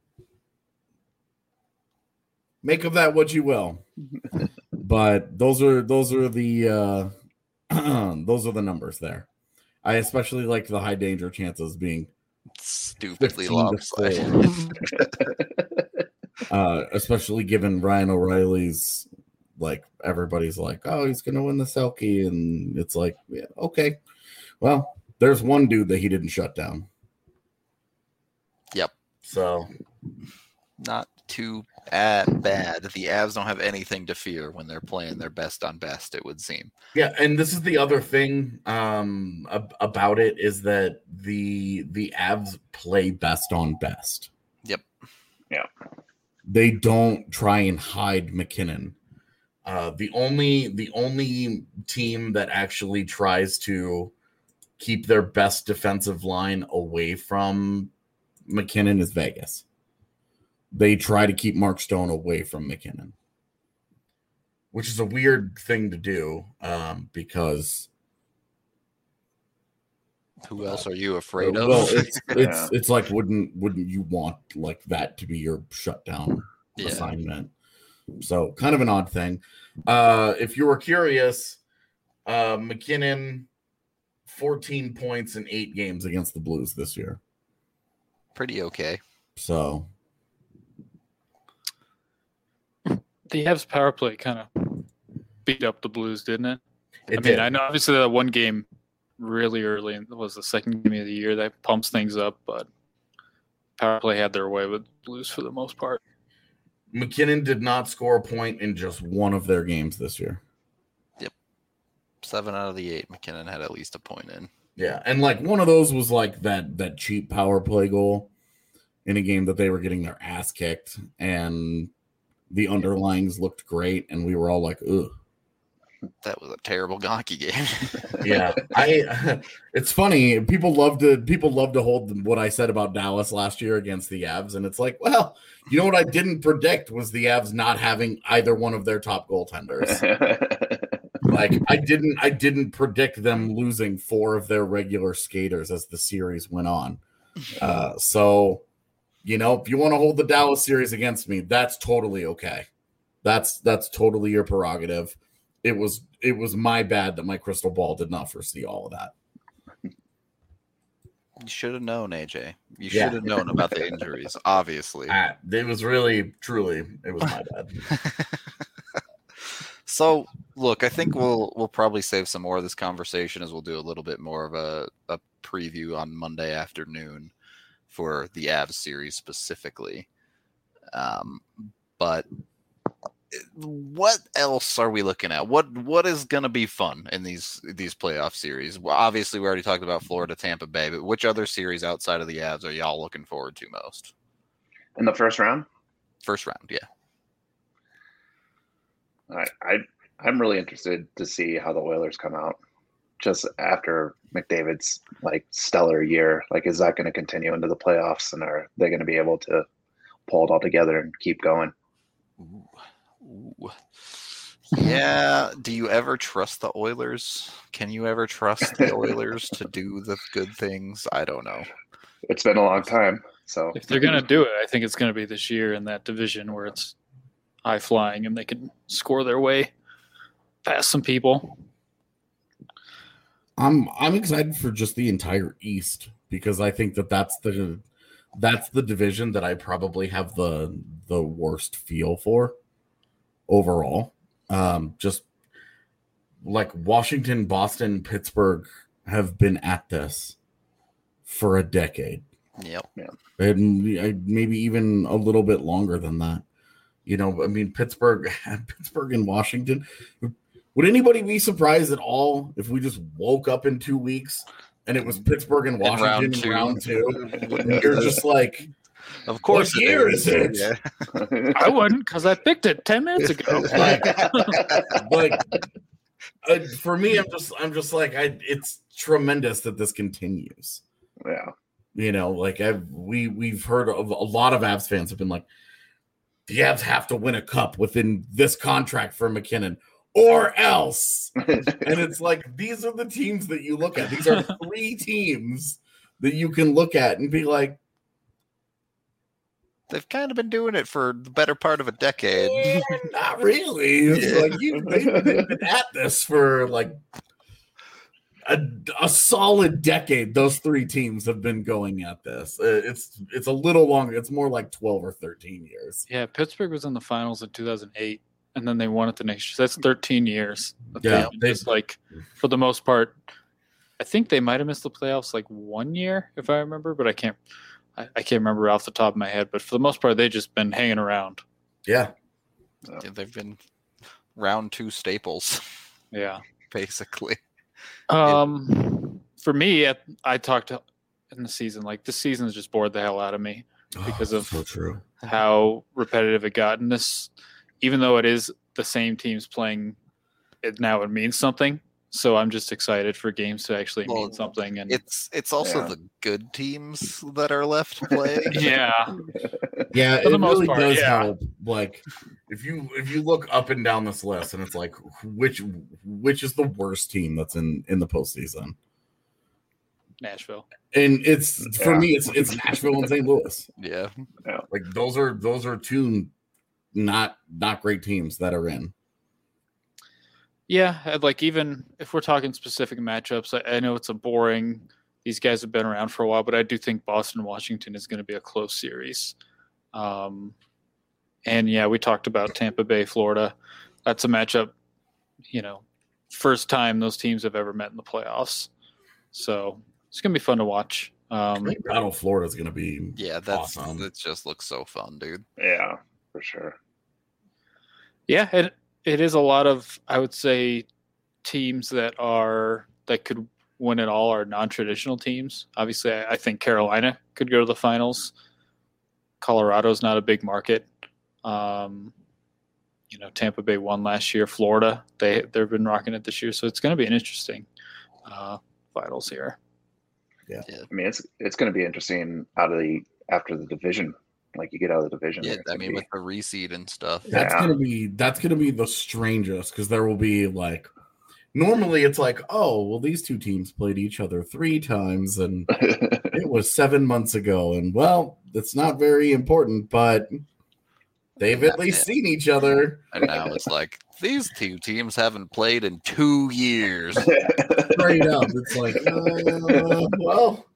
make of that what you will. But those are those are the uh those are the numbers there. I especially like the high danger chances being Stupidly fifteen to lopsided. four. uh, especially given Ryan O'Reilly's, like, everybody's like, oh, he's gonna win the Selke, and it's like, yeah, okay. Well, there's one dude that he didn't shut down. Yep. So Not too bad. bad. The Avs don't have anything to fear when they're playing their best on best, it would seem. yeah, and this is the other thing um, ab- about it is that the the Avs play best on best. Yep. Yeah. They don't try and hide McKinnon. Uh, the only the only team that actually tries to keep their best defensive line away from McKinnon is Vegas. They try to keep Mark Stone away from McKinnon, which is a weird thing to do um, because Who else are you afraid of? well, it's it's Yeah. it's like wouldn't wouldn't you want like that to be your shutdown Yeah. assignment? So kind of an odd thing. Uh, if you were curious, uh, McKinnon, fourteen points in eight games against the Blues this year. Pretty okay. So The Avs power play kind of beat up the Blues, didn't it? it I did. mean, I know obviously that one game really early in- was the second game of the year that pumps things up, but power play had their way with the Blues for the most part. McKinnon did not score a point in just one of their games this year. Seven out of the eight, McKinnon had at least a point in. Yeah, and like one of those was like that that cheap power play goal in a game that they were getting their ass kicked, and the underlings looked great, and we were all like, ugh. That was a terrible hockey game. Yeah, I. It's funny. People love to people love to hold what I said about Dallas last year against the Avs, and it's like, well, you know what I didn't predict was the Avs not having either one of their top goaltenders. Like I didn't, I didn't predict them losing four of their regular skaters as the series went on. Uh, so, you know, if you want to hold the Dallas series against me, that's totally okay. That's that's totally your prerogative. It was it was my bad that my crystal ball did not foresee all of that. You should have known, A J. You Yeah. should have known about the injuries, obviously. Ah, it was really, truly, it was my bad. So, look, I think we'll we'll probably save some more of this conversation as we'll do a little bit more of a, a preview on Monday afternoon for the Avs series specifically. Um, but what else are we looking at? What what is going to be fun in these these playoff series? Well, obviously, we already talked about Florida, Tampa Bay, but which other series outside of the Avs are y'all looking forward to most? In the first round? First round, yeah. I, I I'm really interested to see how the Oilers come out just after McDavid's like stellar year. Like, is that going to continue into the playoffs, and are they going to be able to pull it all together and keep going? Ooh. Ooh. Yeah. Do you ever trust the Oilers? Can you ever trust the Oilers to do the good things? I don't know. It's been a long time. So If they're going to do it, I think it's going to be this year in that division where it's high flying and they can score their way past some people. I'm I'm excited for just the entire East because I think that that's the that's the division that I probably have the the worst feel for overall. Um, just like Washington, Boston, Pittsburgh have been at this for a decade. Yep. And maybe even a little bit longer than that. You know, I mean, Pittsburgh, Pittsburgh and Washington. Would anybody be surprised at all if we just woke up in two weeks and it was Pittsburgh and Washington in round two? And round two? You're just like, of course, what year is it? Yeah. I wouldn't because I picked it ten minutes ago. Like, like uh, for me, I'm just, I'm just like, I. It's tremendous that this continues. Yeah. You know, like I've we we've heard of a lot of Avs fans have been like, the Avs have to win a cup within this contract for McKinnon, or else. And it's like these are the teams that you look at. These are three teams that you can look at and be like, they've kind of been doing it for the better part of a decade. Eh, not really. It's Yeah. like you they've, they've been at this for like a, a solid decade. Those three teams have been going at this. Uh, It's it's a little longer. It's more like twelve or thirteen years. Yeah, Pittsburgh was in the finals in two thousand eight, and then they won it the next year. So that's thirteen years. that Yeah, they've been they- just like for the most part. I think they might have missed the playoffs like one year, if I remember, but I can't. I, I can't remember off the top of my head. But for the most part, they've just been hanging around. Yeah. Yeah, they've been round two staples, Yeah. basically. Um, for me, I, I talked in the season like this season has just bored the hell out of me because Oh, of so true. how repetitive it got. And this, even though it is the same teams playing, it now it means something. So I'm just excited for games to actually Well, mean something. And It's it's also Yeah. the good teams that are left playing. yeah, Yeah, For the it most really part, does yeah. help. Like if you if you look up and down this list, and it's like which which is the worst team that's in in the postseason, Nashville. and it's for Yeah. me, it's it's Nashville and Saint Louis. Yeah. Like those are those are two not not great teams that are in. Yeah, and like even if we're talking specific matchups, I, I know it's a boring. These guys have been around for a while, but I do think Boston Washington is going to be a close series. Um, and yeah, we talked about Tampa Bay, Florida. That's a matchup. You know, first time those teams have ever met in the playoffs, so it's going to be fun to watch. I Um, think Battle Florida is going to be Yeah, that's Awesome. that just looks so fun, dude. Yeah, for sure. Yeah, it it is a lot of, I would say, teams that are that could win it all are non-traditional teams. Obviously, I, I think Carolina could go to the finals. Colorado's not a big market. Um, you know, Tampa Bay won last year. Florida, they they've been rocking it this year, so it's going to be an interesting uh, finals here. I mean, it's it's going to be interesting out of the after the division. Like you get out of the division. Yeah, it's I gonna mean be- with the reseed and stuff. That's Yeah. gonna be that's gonna be the strangest because there will be like normally it's like, oh well, these two teams played each other three times and it was seven months ago, and well, it's not very important, but they've at least seen each other. And now it's like these two teams haven't played in two years. Straight up. It's like, uh, well,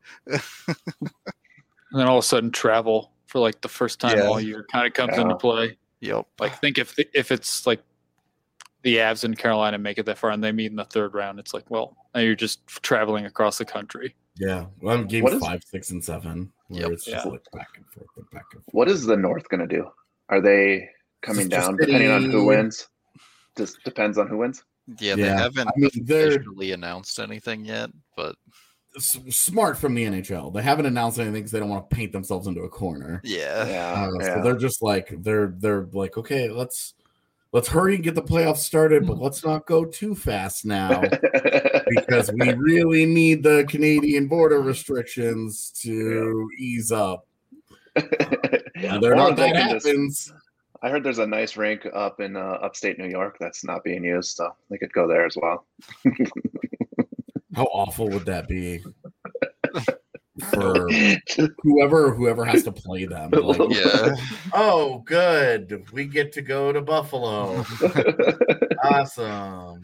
And then all of a sudden, travel for like the first time Yeah. all year kind of comes Yeah. into play. Yep. Like, think if if it's like the Avs and Carolina make it that far and they meet in the third round, it's like, well, now you're just traveling across the country. Yeah, well, I'm games What is- five, six, and seven, where Yep. it's just Yeah. like back and forth and back and forth. What is the North going to do? Are they coming Sister down depending on who City. wins? Just depends on who wins. Yeah, they Yeah, haven't I mean, they're- officially announced anything yet, but S- smart from the N H L. They haven't announced anything because they don't want to paint themselves into a corner. yeah. Yeah, Uh, yeah. So they're just like they're they're like, okay, let's let's hurry and get the playoffs started, but let's not go too fast now because we really need the Canadian border restrictions to ease up. And they're Or not they that can just- happens. I heard there's a nice rink up in uh, upstate New York that's not being used, so they could go there as well. How awful would that be for whoever whoever has to play them? Like, Yeah. oh, good, we get to go to Buffalo. Awesome.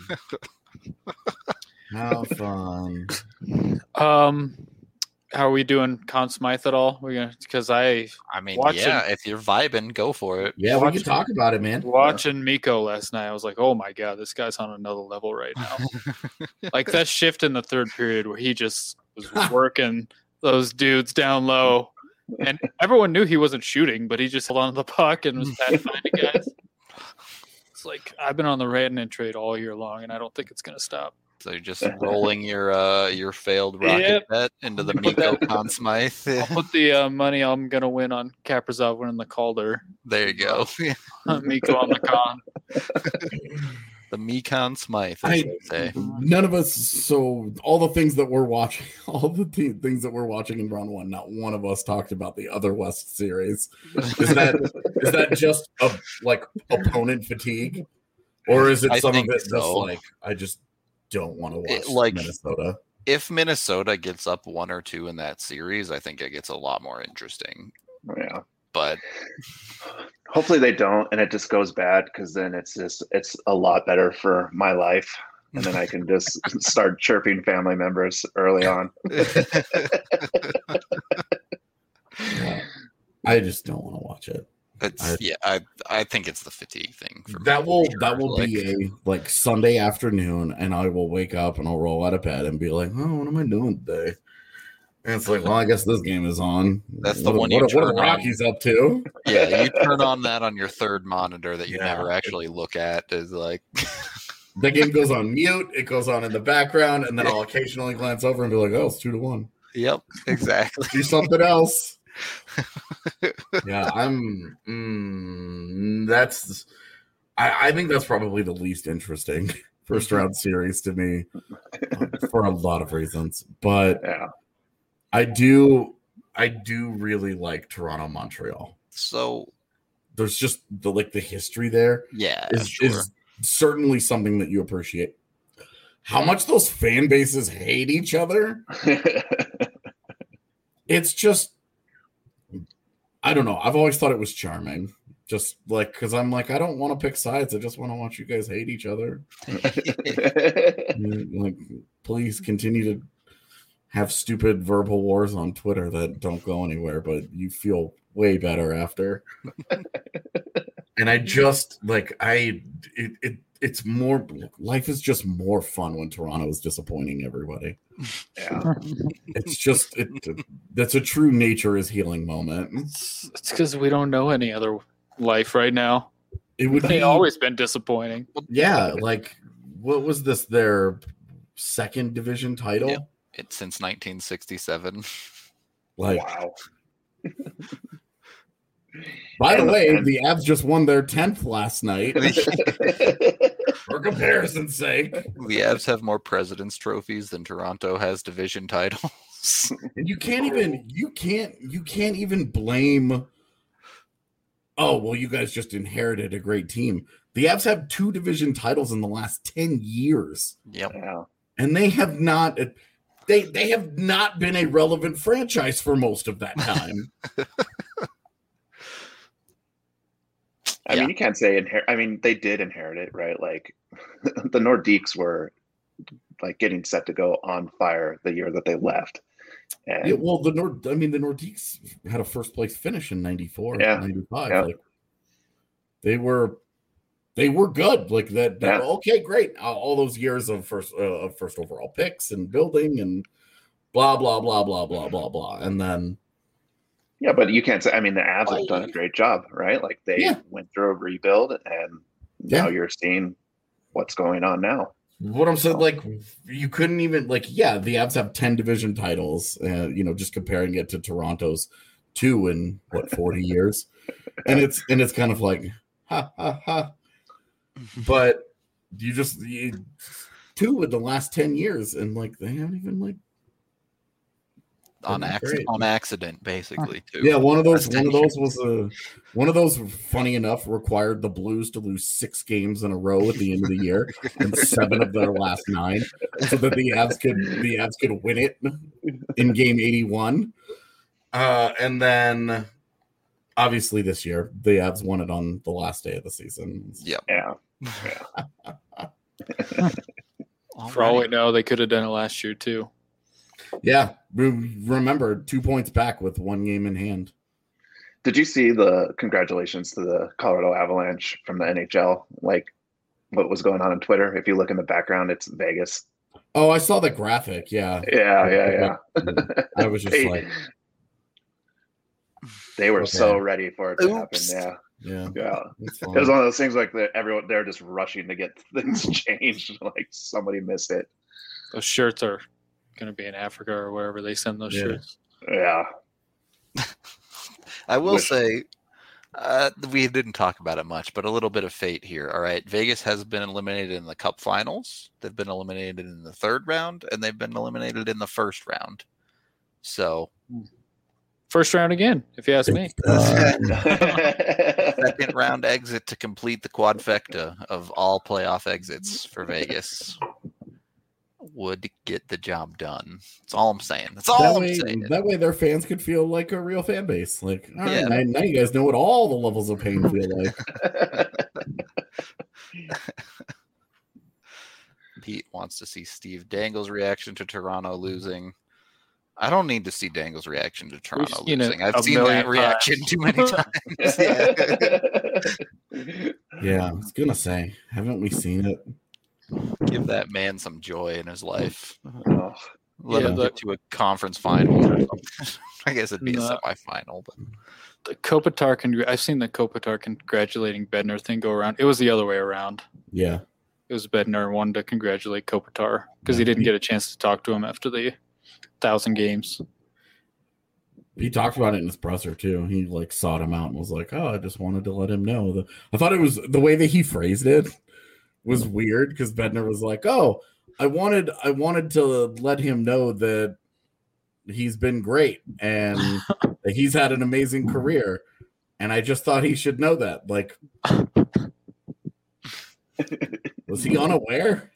How fun. Um, how are we doing, Conn Smythe at all? We're gonna because I I mean, Watching- yeah, if you're vibing, go for it. Yeah, we Watch can it. talk about it, man. watching Miko last night. I was like, oh my god, this guy's on another level right now. Like that shift in the third period where he just was working those dudes down low, and everyone knew he wasn't shooting, but he just held on to the puck and was pathfinding guys. It's like I've been on the Rantanen trade all year long, and I don't think it's gonna stop. So you're just rolling your uh your failed rocket Yep. bet into the Put Miko that- Conn Smythe. I'll put the uh, money I'm gonna win on Kaprizov winning the Calder. There you go. Miko on the con. The Mekon Smythe, as I- they say. None of us. So all the things that we're watching, all the te- things that we're watching in round one, not one of us talked about the other West series. Is that is that just a like opponent fatigue, or is it I some of think it just so. like I just don't want to watch It, like- Minnesota? If Minnesota gets up one or two in that series, I think it gets a lot more interesting. Yeah. But Hopefully they don't, and it just goes bad because then it's just it's a lot better for my life, and then I can just start chirping family members early on. Yeah. I just don't want to watch it. it's I- yeah, I I think it's the fatigue thing for me. That will for that sure. will Like, be a like Sunday afternoon, and I will wake up and I'll roll out of bed and be like, "Oh, what am I doing today?" And it's like, "Well, I guess this game is on." That's the what, one you What, what are turn the on. Rockies up to? yeah, you turn on that on your third monitor that you Yeah. never actually look at. Is like The game goes on mute. It goes on in the background, and then I'll occasionally glance over and be like, "Oh, it's two to one. Yep, exactly. Do something else." Yeah, I'm. Mm, that's. I, I think that's probably the least interesting first round series to me um, for a lot of reasons, but Yeah. I do. I do really like Toronto, Montreal. So There's just the like the history there yeah, is sure. is certainly something that you appreciate. How much those fan bases hate each other, it's just I don't know. I've always thought it was charming. Just like because I'm like, I don't want to pick sides. I just want to watch you guys hate each other. Like, please continue to have stupid verbal wars on Twitter that don't go anywhere, but you feel way better after. And I just like I it, it it's more life is just more fun when Toronto is disappointing everybody. Yeah. It's just it that's a true nature is healing moment. It's because we don't know any other life right now. It would They be always been disappointing. yeah, like what was this their second division title? Yep. It's since nineteen sixty-seven. Like Wow. by the And- way, and- the Avs just won their tenth last night. For comparison's sake. The Avs have more President's trophies than Toronto has division titles. And you can't even you can't you can't even blame oh well you guys just inherited a great team. The Avs have two division titles in the last ten years, Yep. Yeah. and they have not they they have not been a relevant franchise for most of that time. I Yeah. mean, you can't say inherit. I mean, they did inherit it, right? Like the Nordiques were like getting set to go on fire the year that they left. And Yeah, well, the Nord I mean the Nordiques had a first place finish in ninety-four, Yeah. ninety-five. Yeah. Like they were they were good. Like that, that Yeah. okay, great. All all those years of first uh, of first overall picks and building and blah blah blah blah blah blah blah, and then yeah, but you can't say. I mean, the Avs have done a great job, right? Like they Yeah. went through a rebuild, and now Yeah. you're seeing what's going on now. what I'm saying, like you couldn't even like yeah, the Avs have ten division titles, uh, you know, just comparing it to Toronto's two in what forty years, and it's and it's kind of like ha ha ha, but you just you, two in the last ten years, and like they haven't even like on That'd be accident, great. on accident, basically. Too. yeah, one of those Last one ten of those was a one of those funny enough required the Blues to lose six games in a row at the end of the year and seven of their last nine, so that the Avs could the Avs could win it in game eighty-one. Uh, and then obviously this year the Avs won it on the last day of the season. Yep. Yeah, For all we know, they could have done it last year too. Yeah, re- remember two points back with one game in hand. did you see the congratulations to the Colorado Avalanche from the N H L? Like what was going on on Twitter? If you look in the background, it's Vegas. Oh, I saw the graphic. Yeah, Yeah, yeah, yeah. I was just They- like, They were Okay. so ready for it to Oops. happen. Yeah, yeah, yeah. it's It was fine. one of those things like that. Everyone they're just rushing to get things changed. Like somebody missed it. Those shirts are going to be in Africa or wherever they send those Yeah. shirts. Yeah, I will Wish- say, uh, we didn't talk about it much, but a little bit of fate here. All right, Vegas has been eliminated in the Cup Finals. They've been eliminated in the third round, and they've been eliminated in the first round. So, First round again, if you ask me. second round exit to complete the quadfecta of all playoff exits for Vegas would get the job done. That's all I'm saying. That's all That I'm way, saying. that way, their fans could feel like a real fan base. Like, all right, Yeah. now, now you guys know what all the levels of pain feel like. Pete wants to see Steve Dangle's reaction to Toronto losing. I don't need to see Dangle's reaction to Toronto seen it losing. I've a seen million that reaction times. too many times. Yeah. Yeah, I was gonna say, haven't we seen it? Give that man some joy in his life. Oh, Let Yeah, him the- get to a conference final or something. I guess it'd be a No. semifinal, but The Kopitar, congr- I've seen the Kopitar congratulating Bednar thing go around. It was the other way around. Yeah, It was Bednar wanted to congratulate Kopitar because he Yeah. didn't get a chance to talk to him after the thousand games. he talked about it in his presser too. He like sought him out and was like, "Oh, I just wanted to let him know." The, I thought it was the way that he phrased it was weird because Bednar was like, "Oh, I wanted, I wanted to let him know that he's been great and that he's had an amazing career, and I just thought he should know that." Like, was he unaware?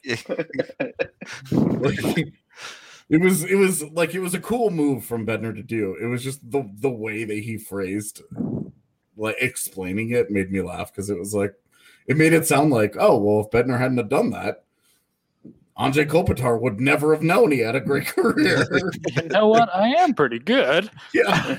Like, it was it was like it was a cool move from Bednar to do. It was just the the way that he phrased like explaining it made me laugh because it was like it made it sound like, oh well, if Bednar hadn't have done that, Andrei Kopitar would never have known he had a great career. You know what? I am pretty good. Yeah.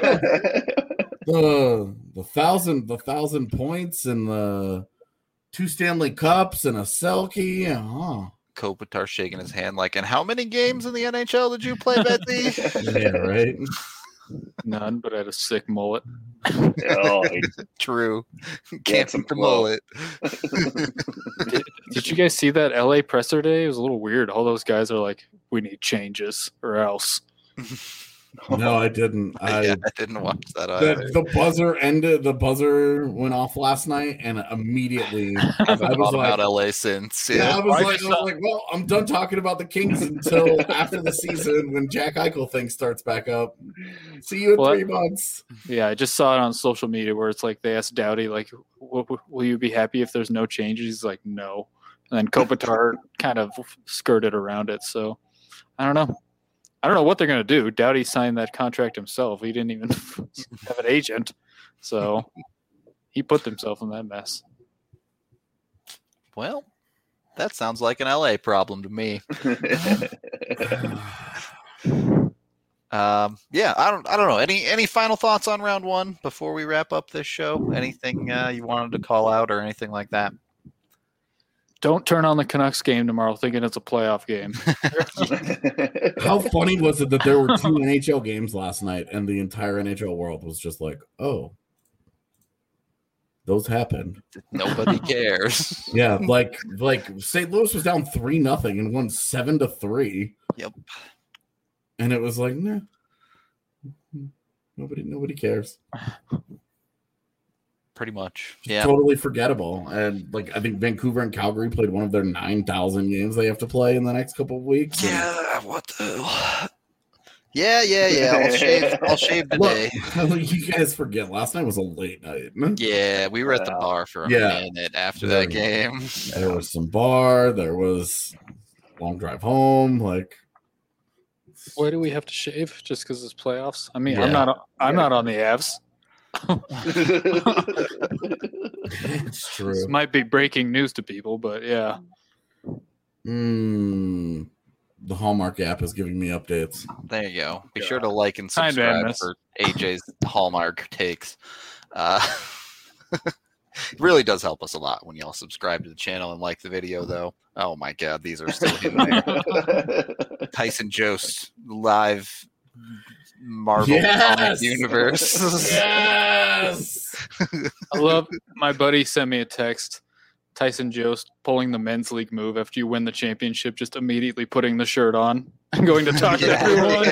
the the thousand the thousand points and the two Stanley Cups and a Selkie. Huh. Kopitar shaking his hand like, and how many games in the N H L did you play, Betsy? Yeah, right. None, but I had a sick mullet. Oh, True. Get Can't some beat the flow. mullet. Did, did you guys see that L A presser day? It was a little weird. All those guys are like, we need changes or else. No, I didn't. I yeah, I didn't watch that the, either. the buzzer ended. The buzzer went off last night, and immediately I I haven't was thought like, about L A since. yeah, I Yeah. was I like, just I was saw- like, well, I'm done talking about the Kings until after the season when Jack Eichel thing starts back up. See you in Well, three months. Yeah, I just saw it on social media where it's like they asked Doughty, like, w- w- will you be happy if there's no changes? He's like, no. And then Kopitar kind of skirted around it. So I don't know. I don't know what they're going to do. Doughty signed that contract himself. He didn't even have an agent. So he put himself in that mess. Well, that sounds like an L A problem to me. Um, yeah, I don't, I don't know. Any, any final thoughts on round one before we wrap up this show? Anything uh, you wanted to call out or anything like that? Don't turn on the Canucks game tomorrow thinking it's a playoff game. How funny was it that there were two N H L games last night and the entire N H L world was just like, oh, those happened. Nobody cares. Yeah, like like Saint Louis was down three nothing and won seven to three. Yep. And it was like, nah. Nobody nobody cares. Pretty much. It's Yeah. totally forgettable. And like I think Vancouver and Calgary played one of their nine thousand games they have to play in the next couple of weeks. And Yeah, what the Yeah, yeah, yeah. I'll shave I'll shave today. Look, you guys forget last night was a late night. Yeah, we were at the Yeah. bar for a Yeah. minute after Yeah. that game. There was some bar, there was long drive home, like Why do we have to shave? Just because it's playoffs? I mean, Yeah. I'm not. I'm not on the Avs. it's true. This might be breaking news to people, but yeah. Mm, the Hallmark app is giving me updates. There you go. Be Yeah. sure to like and Hi, subscribe Madness. for A J's Hallmark takes. Uh, it really does help us a lot when y'all subscribe to the channel and like the video, though. Oh my God, these are still in there. Tyson Jost live Marvel Yes! comic universe. Yes. I love my buddy sent me a text. Tyson Jost pulling the men's league move after you win the championship, just immediately putting the shirt on and going to talk to everyone.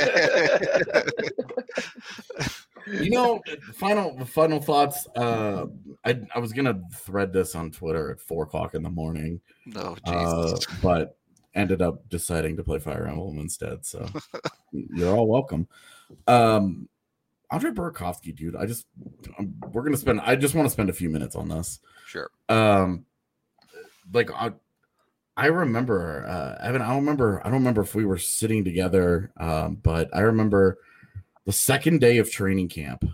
You know, final final thoughts. Uh, I I was gonna thread this on Twitter at four o'clock in the morning, Oh uh, Jesus! but ended up deciding to play Fire Emblem instead. So you're all welcome. Um, Andre Burakovsky, dude. I just um, we're gonna spend. I just want to spend a few minutes on this. Sure. Um, like I, I remember. Uh, Evan, I don't remember. I don't remember if we were sitting together. Um, but I remember the second day of training camp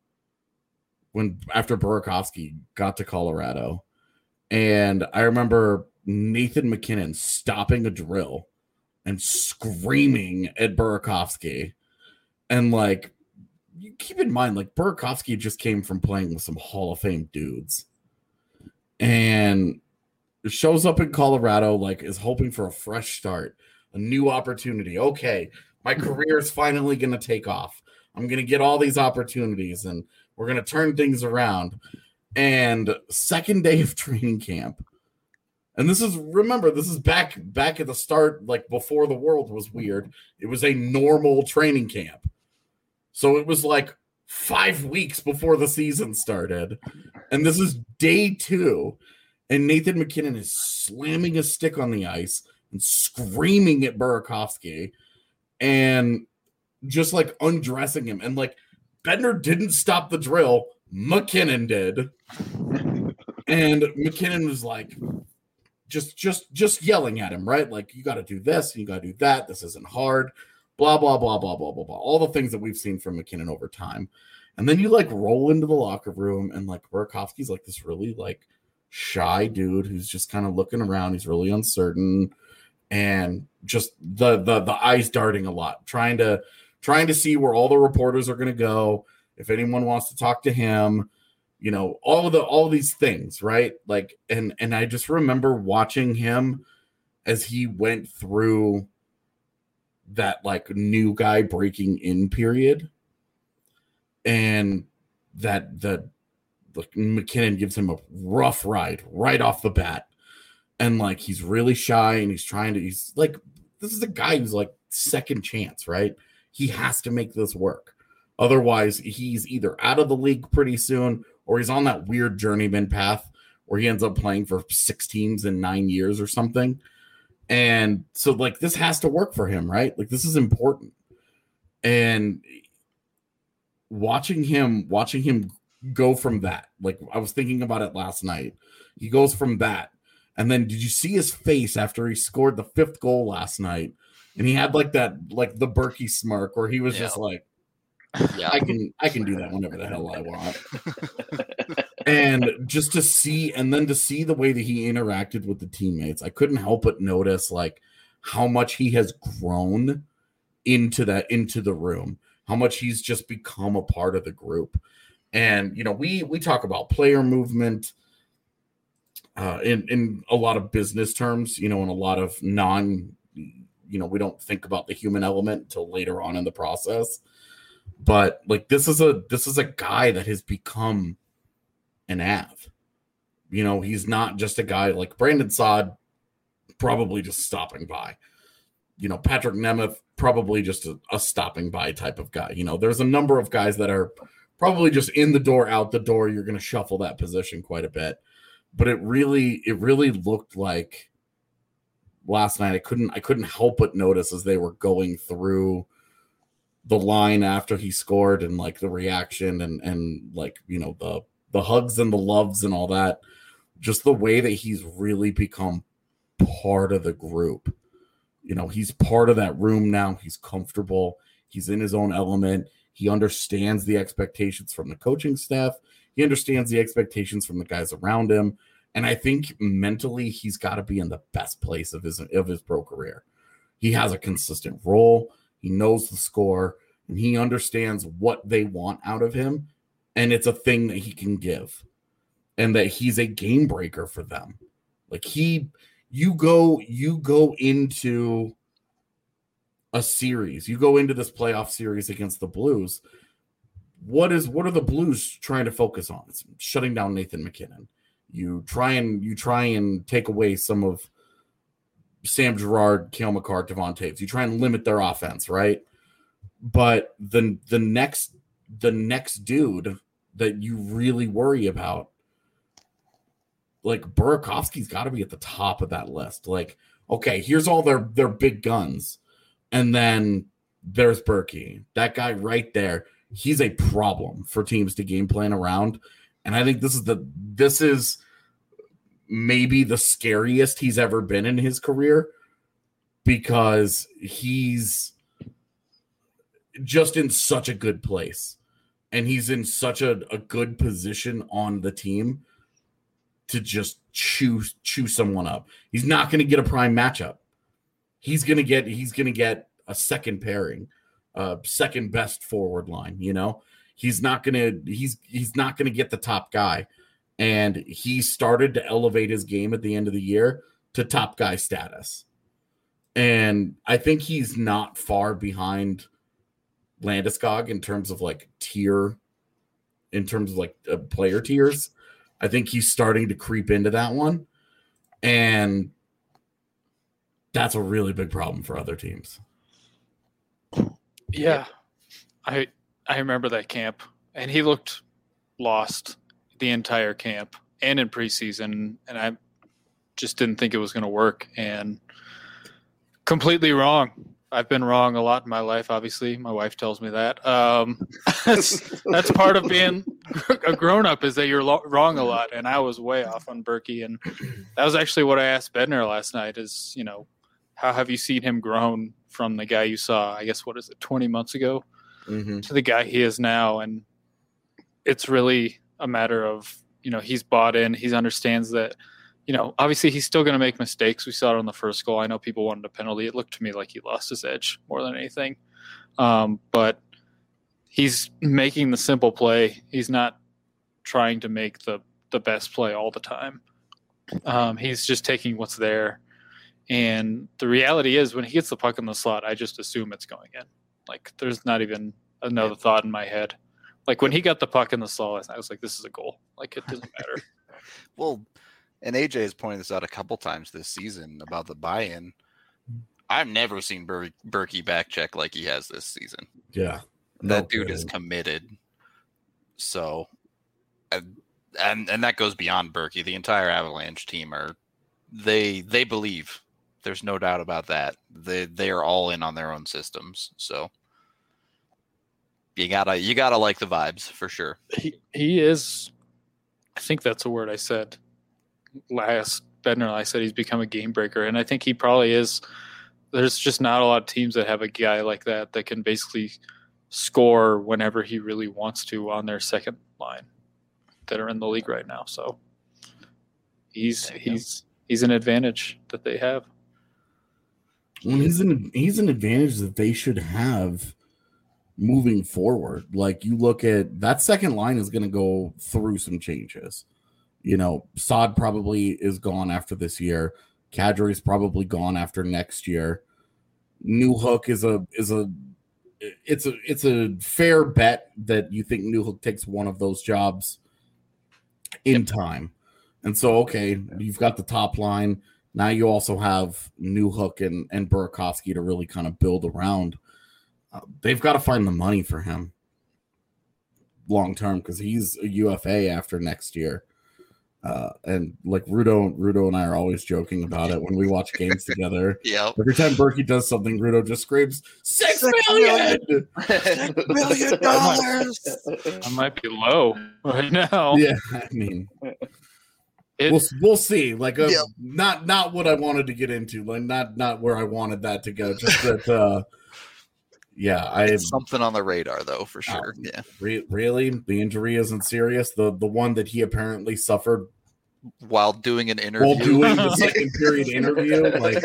when after Burakovsky got to Colorado, and I remember Nathan McKinnon stopping a drill and screaming at Burakovsky, and like. You keep in mind, like Burakovsky just came from playing with some Hall of Fame dudes, and shows up in Colorado, like is hoping for a fresh start, a new opportunity. Okay, my career is finally going to take off. I'm going to get all these opportunities, and we're going to turn things around. And second day of training camp, and this is remember this is back back at the start, like before the world was weird. It was a normal training camp. So it was like five weeks before the season started. And this is day two. And Nathan McKinnon is slamming a stick on the ice and screaming at Burakovsky and just like undressing him. And like Bednar didn't stop the drill. McKinnon did. And McKinnon was like just just just yelling at him, right? Like, you got to do this, you got to do that. This isn't hard. Blah, blah, blah, blah, blah, blah, blah. All the things that we've seen from McKinnon over time. And then you like roll into the locker room and like Burakovsky's like this really like shy dude who's just kind of looking around. He's really uncertain and just the the the eyes darting a lot, trying to trying to see where all the reporters are going to go. If anyone wants to talk to him, you know, all of the all of these things, right? Like, and and I just remember watching him as he went through that like new guy breaking in period, and that that like McKinnon gives him a rough ride right off the bat, and like he's really shy and he's trying to he's like this is a guy who's like second chance, right? He has to make this work, otherwise he's either out of the league pretty soon or he's on that weird journeyman path where he ends up playing for six teams in nine years or something. And so like this has to work for him, right? Like this is important. And watching him watching him go from that, like I was thinking about it last night. He goes from that. And then did you see his face after he scored the fifth goal last night? And he had like that like the Berkey smirk where he was Yeah. just like, Yeah. I can I can do that whenever the hell I want. And just to see, and then to see the way that he interacted with the teammates, I couldn't help but notice like how much he has grown into that, into the room, how much he's just become a part of the group. And, you know, we, we talk about player movement uh, in in a lot of business terms, you know, in a lot of non, you know, we don't think about the human element until later on in the process. But like this is a this is a guy that has become an Av. You know, he's not just a guy like Brandon Saad, probably just stopping by. You know, Patrick Nemeth, probably just a, a stopping by type of guy. You know, there's a number of guys that are probably just in the door, out the door. You're going to shuffle that position quite a bit. But it really, it really looked like last night. I couldn't, I couldn't help but notice as they were going through the line after he scored and like the reaction and, and like, you know, the, the hugs and the loves and all that, just the way that he's really become part of the group. You know, he's part of that room now. He's comfortable. He's in his own element. He understands the expectations from the coaching staff. He understands the expectations from the guys around him. And I think mentally he's got to be in the best place of his of his pro career. He has a consistent role. He knows the score, and he understands what they want out of him. And it's a thing that he can give, and that he's a game breaker for them. Like he, you go, you go into a series, you go into this playoff series against the Blues. What is, what are the Blues trying to focus on? It's shutting down Nathan McKinnon. You try and you try and take away some of Sam Girard, Cale Makar, Devon Taves. You try and limit their offense, right? But the the next the next dude that you really worry about, like Burakovsky's got to be at the top of that list. Like, okay, here's all their their big guns, and then there's Berkey, that guy right there. He's a problem for teams to game plan around, and I think this is the this is maybe the scariest he's ever been in his career, because he's just in such a good place, and he's in such a, a good position on the team to just chew chew someone up. He's not going to get a prime matchup. He's going to get he's going to get a second pairing, uh, second best forward line. You know, he's not going to he's he's not going to get the top guy, and he started to elevate his game at the end of the year to top guy status. And I think he's not far behind Landeskog in terms of like tier, in terms of like uh, player tiers. I think he's starting to creep into that one, and that's a really big problem for other teams. Yeah, I I remember that camp, and he looked lost the entire camp and in preseason, and I just didn't think it was going to work, and completely wrong. I've been wrong a lot in my life, obviously. My wife tells me that. Um, that's, that's part of being a grown-up, is that you're lo- wrong a lot, and I was way off on Berkey. And that was actually what I asked Bednar last night is, you know, how have you seen him grown from the guy you saw, I guess, what is it, twenty months ago, mm-hmm. to the guy he is now? And it's really a matter of, you know, he's bought in. He understands that, you know, obviously he's still going to make mistakes. We saw it on the first goal. I know people wanted a penalty. It looked to me like he lost his edge more than anything. Um, but he's making the simple play. He's not trying to make the, the best play all the time. Um, he's just taking what's there. And the reality is when he gets the puck in the slot, I just assume it's going in. Like there's not even another thought in my head. Like when he got the puck in the slot, I was like, this is a goal. Like it doesn't matter. Well, and A J has pointed this out a couple times this season about the buy-in. I've never seen Ber- Berkey back check like he has this season. Yeah. That no dude is committed. So, and, and and that goes beyond Berkey. The entire Avalanche team are, they they believe. There's no doubt about that. They they are all in on their own systems. So you gotta you gotta like the vibes for sure. He he is. I think that's a word I said last Bednar. I said he's become a game breaker, and I think he probably is. There's just not a lot of teams that have a guy like that that can basically score whenever he really wants to on their second line that are in the league right now. So he's he's he's an advantage that they have. Well, he's an he's an advantage that they should have moving forward. Like you look at that second line is going to go through some changes. You know, Saad probably is gone after this year. Kadri's probably gone after next year. Newhook is a is a it's a it's a fair bet that you think Newhook takes one of those jobs in time. And so, okay, you've got the top line. Now you also have Newhook and, and Burakovsky to really kind of build around. Uh, they've got to find the money for him long term because he's a U F A after next year. Uh, and like Rudo, Rudo and I are always joking about it when we watch games together. Yeah. Every time Berkey does something, Rudo just screams six, six million, six million dollars. I might be low right now. Yeah, I mean, it, we'll we'll see. Like, uh, yeah. not not what I wanted to get into. Like, not not where I wanted that to go. Just that. Uh, yeah, I it's something on the radar though for sure. Uh, yeah. Re- really, the injury isn't serious. The the one that he apparently suffered while doing an interview. While doing the second period interview, like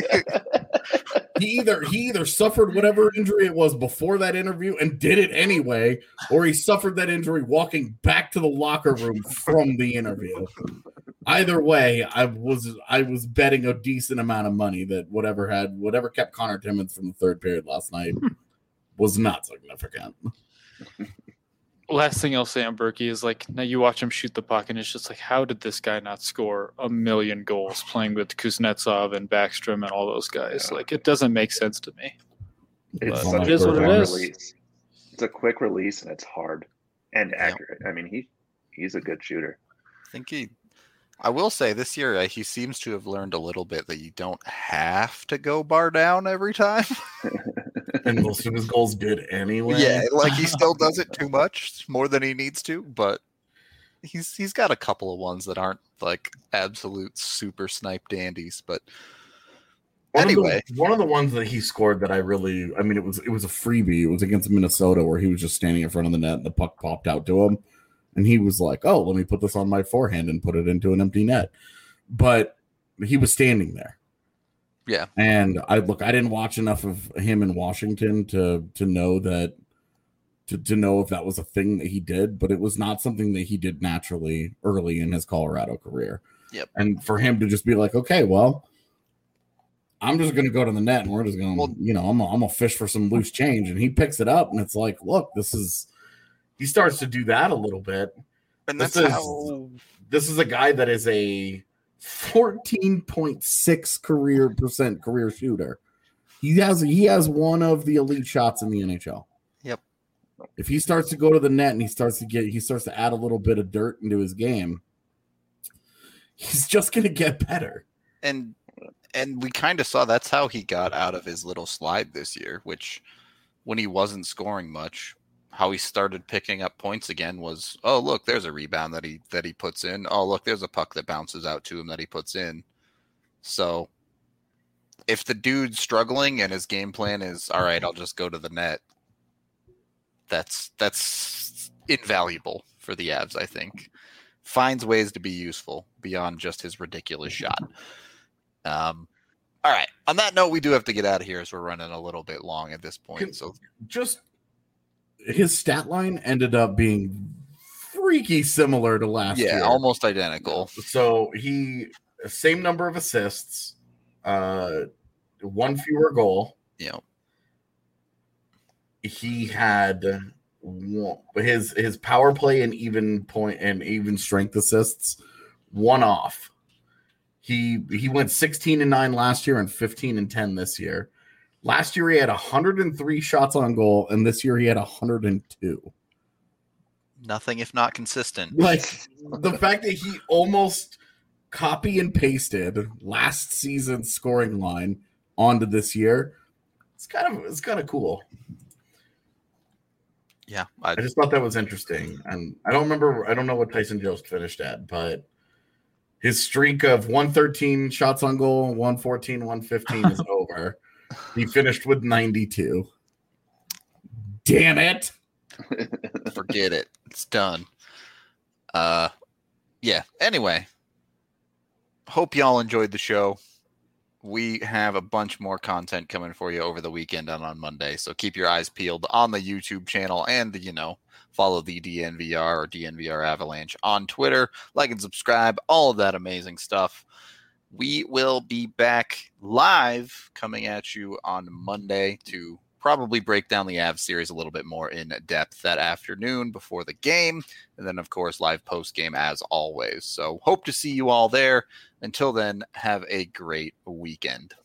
he either he either suffered whatever injury it was before that interview and did it anyway, or he suffered that injury walking back to the locker room from the interview. Either way, I was I was betting a decent amount of money that whatever had whatever kept Connor Timmins from the third period last night was not significant. Last thing I'll say on Berkey is like now you watch him shoot the puck and it's just like how did this guy not score a million goals playing with Kuznetsov and Backstrom and all those guys? Yeah. Like it doesn't make sense to me. It's But such it a is what it quick is. release. It's a quick release and it's hard and accurate. I mean, he he's a good shooter. I think he. I will say this year uh, he seems to have learned a little bit that you don't have to go bar down every time. And most of his goals did anyway. Yeah, like he still does it too much, more than he needs to, but he's he's got a couple of ones that aren't like absolute super snipe dandies. But One anyway, of the, one of the ones that he scored that I really, I mean, it was it was a freebie. It was against Minnesota where he was just standing in front of the net and the puck popped out to him, and he was like, "Oh, let me put this on my forehand and put it into an empty net." But he was standing there. yeah, And I look, I didn't watch enough of him in Washington to to know that to, to know if that was a thing that he did, but it was not something that he did naturally early in his Colorado career. Yep. And for him to just be like, okay, well, I'm just going to go to the net and we're just going to, Well- you know, I'm gonna, I'm gonna fish for some loose change. And he picks it up and it's like, look, this is, he starts to do that a little bit. and This that's is- how. This is a guy that is a fourteen point six career percent career shooter. He has he has one of the elite shots in the N H L. Yep. If he starts to go to the net and he starts to get he starts to add a little bit of dirt into his game, he's just going to get better. and and we kind of saw that's how he got out of his little slide this year, which when he wasn't scoring much, how he started picking up points again was, oh look, there's a rebound that he that he puts in. Oh look, there's a puck that bounces out to him that he puts in. So if the dude's struggling and his game plan is all right, I'll just go to the net, that's that's invaluable for the Avs, I think. Finds ways to be useful beyond just his ridiculous shot. Um, all right. On that note, we do have to get out of here as we're running a little bit long at this point. Can- So Just his stat line ended up being freaky similar to last yeah, year. almost identical. So he same number of assists, uh, one fewer goal. You know, He had one, his his power play and even point and even strength assists one off. He he went sixteen and nine last year and fifteen and ten this year. Last year he had one hundred three shots on goal, and this year he had one hundred two. nothing if not consistent. Like the fact that he almost copy and pasted last season's scoring line onto this year, it's kind of it's kind of cool. Yeah, I, I just thought that was interesting, and I don't remember. I don't know what Tyson Jost finished at, but his streak of one thirteen shots on goal, one fourteen, one fifteen is over. He finished with ninety-two. Damn it! forget it. It's done. Uh, yeah. Anyway, hope y'all enjoyed the show. we have a bunch more content coming for you over the weekend and on Monday. So keep your eyes peeled on the YouTube channel and, the, you know, follow the D N V R or D N V R Avalanche on Twitter. Like and subscribe, all of that amazing stuff. We will be back live coming at you on Monday to probably break down the Avs series a little bit more in depth that afternoon before the game. And then, of course, live post-game as always. So hope to see you all there. Until then, have a great weekend.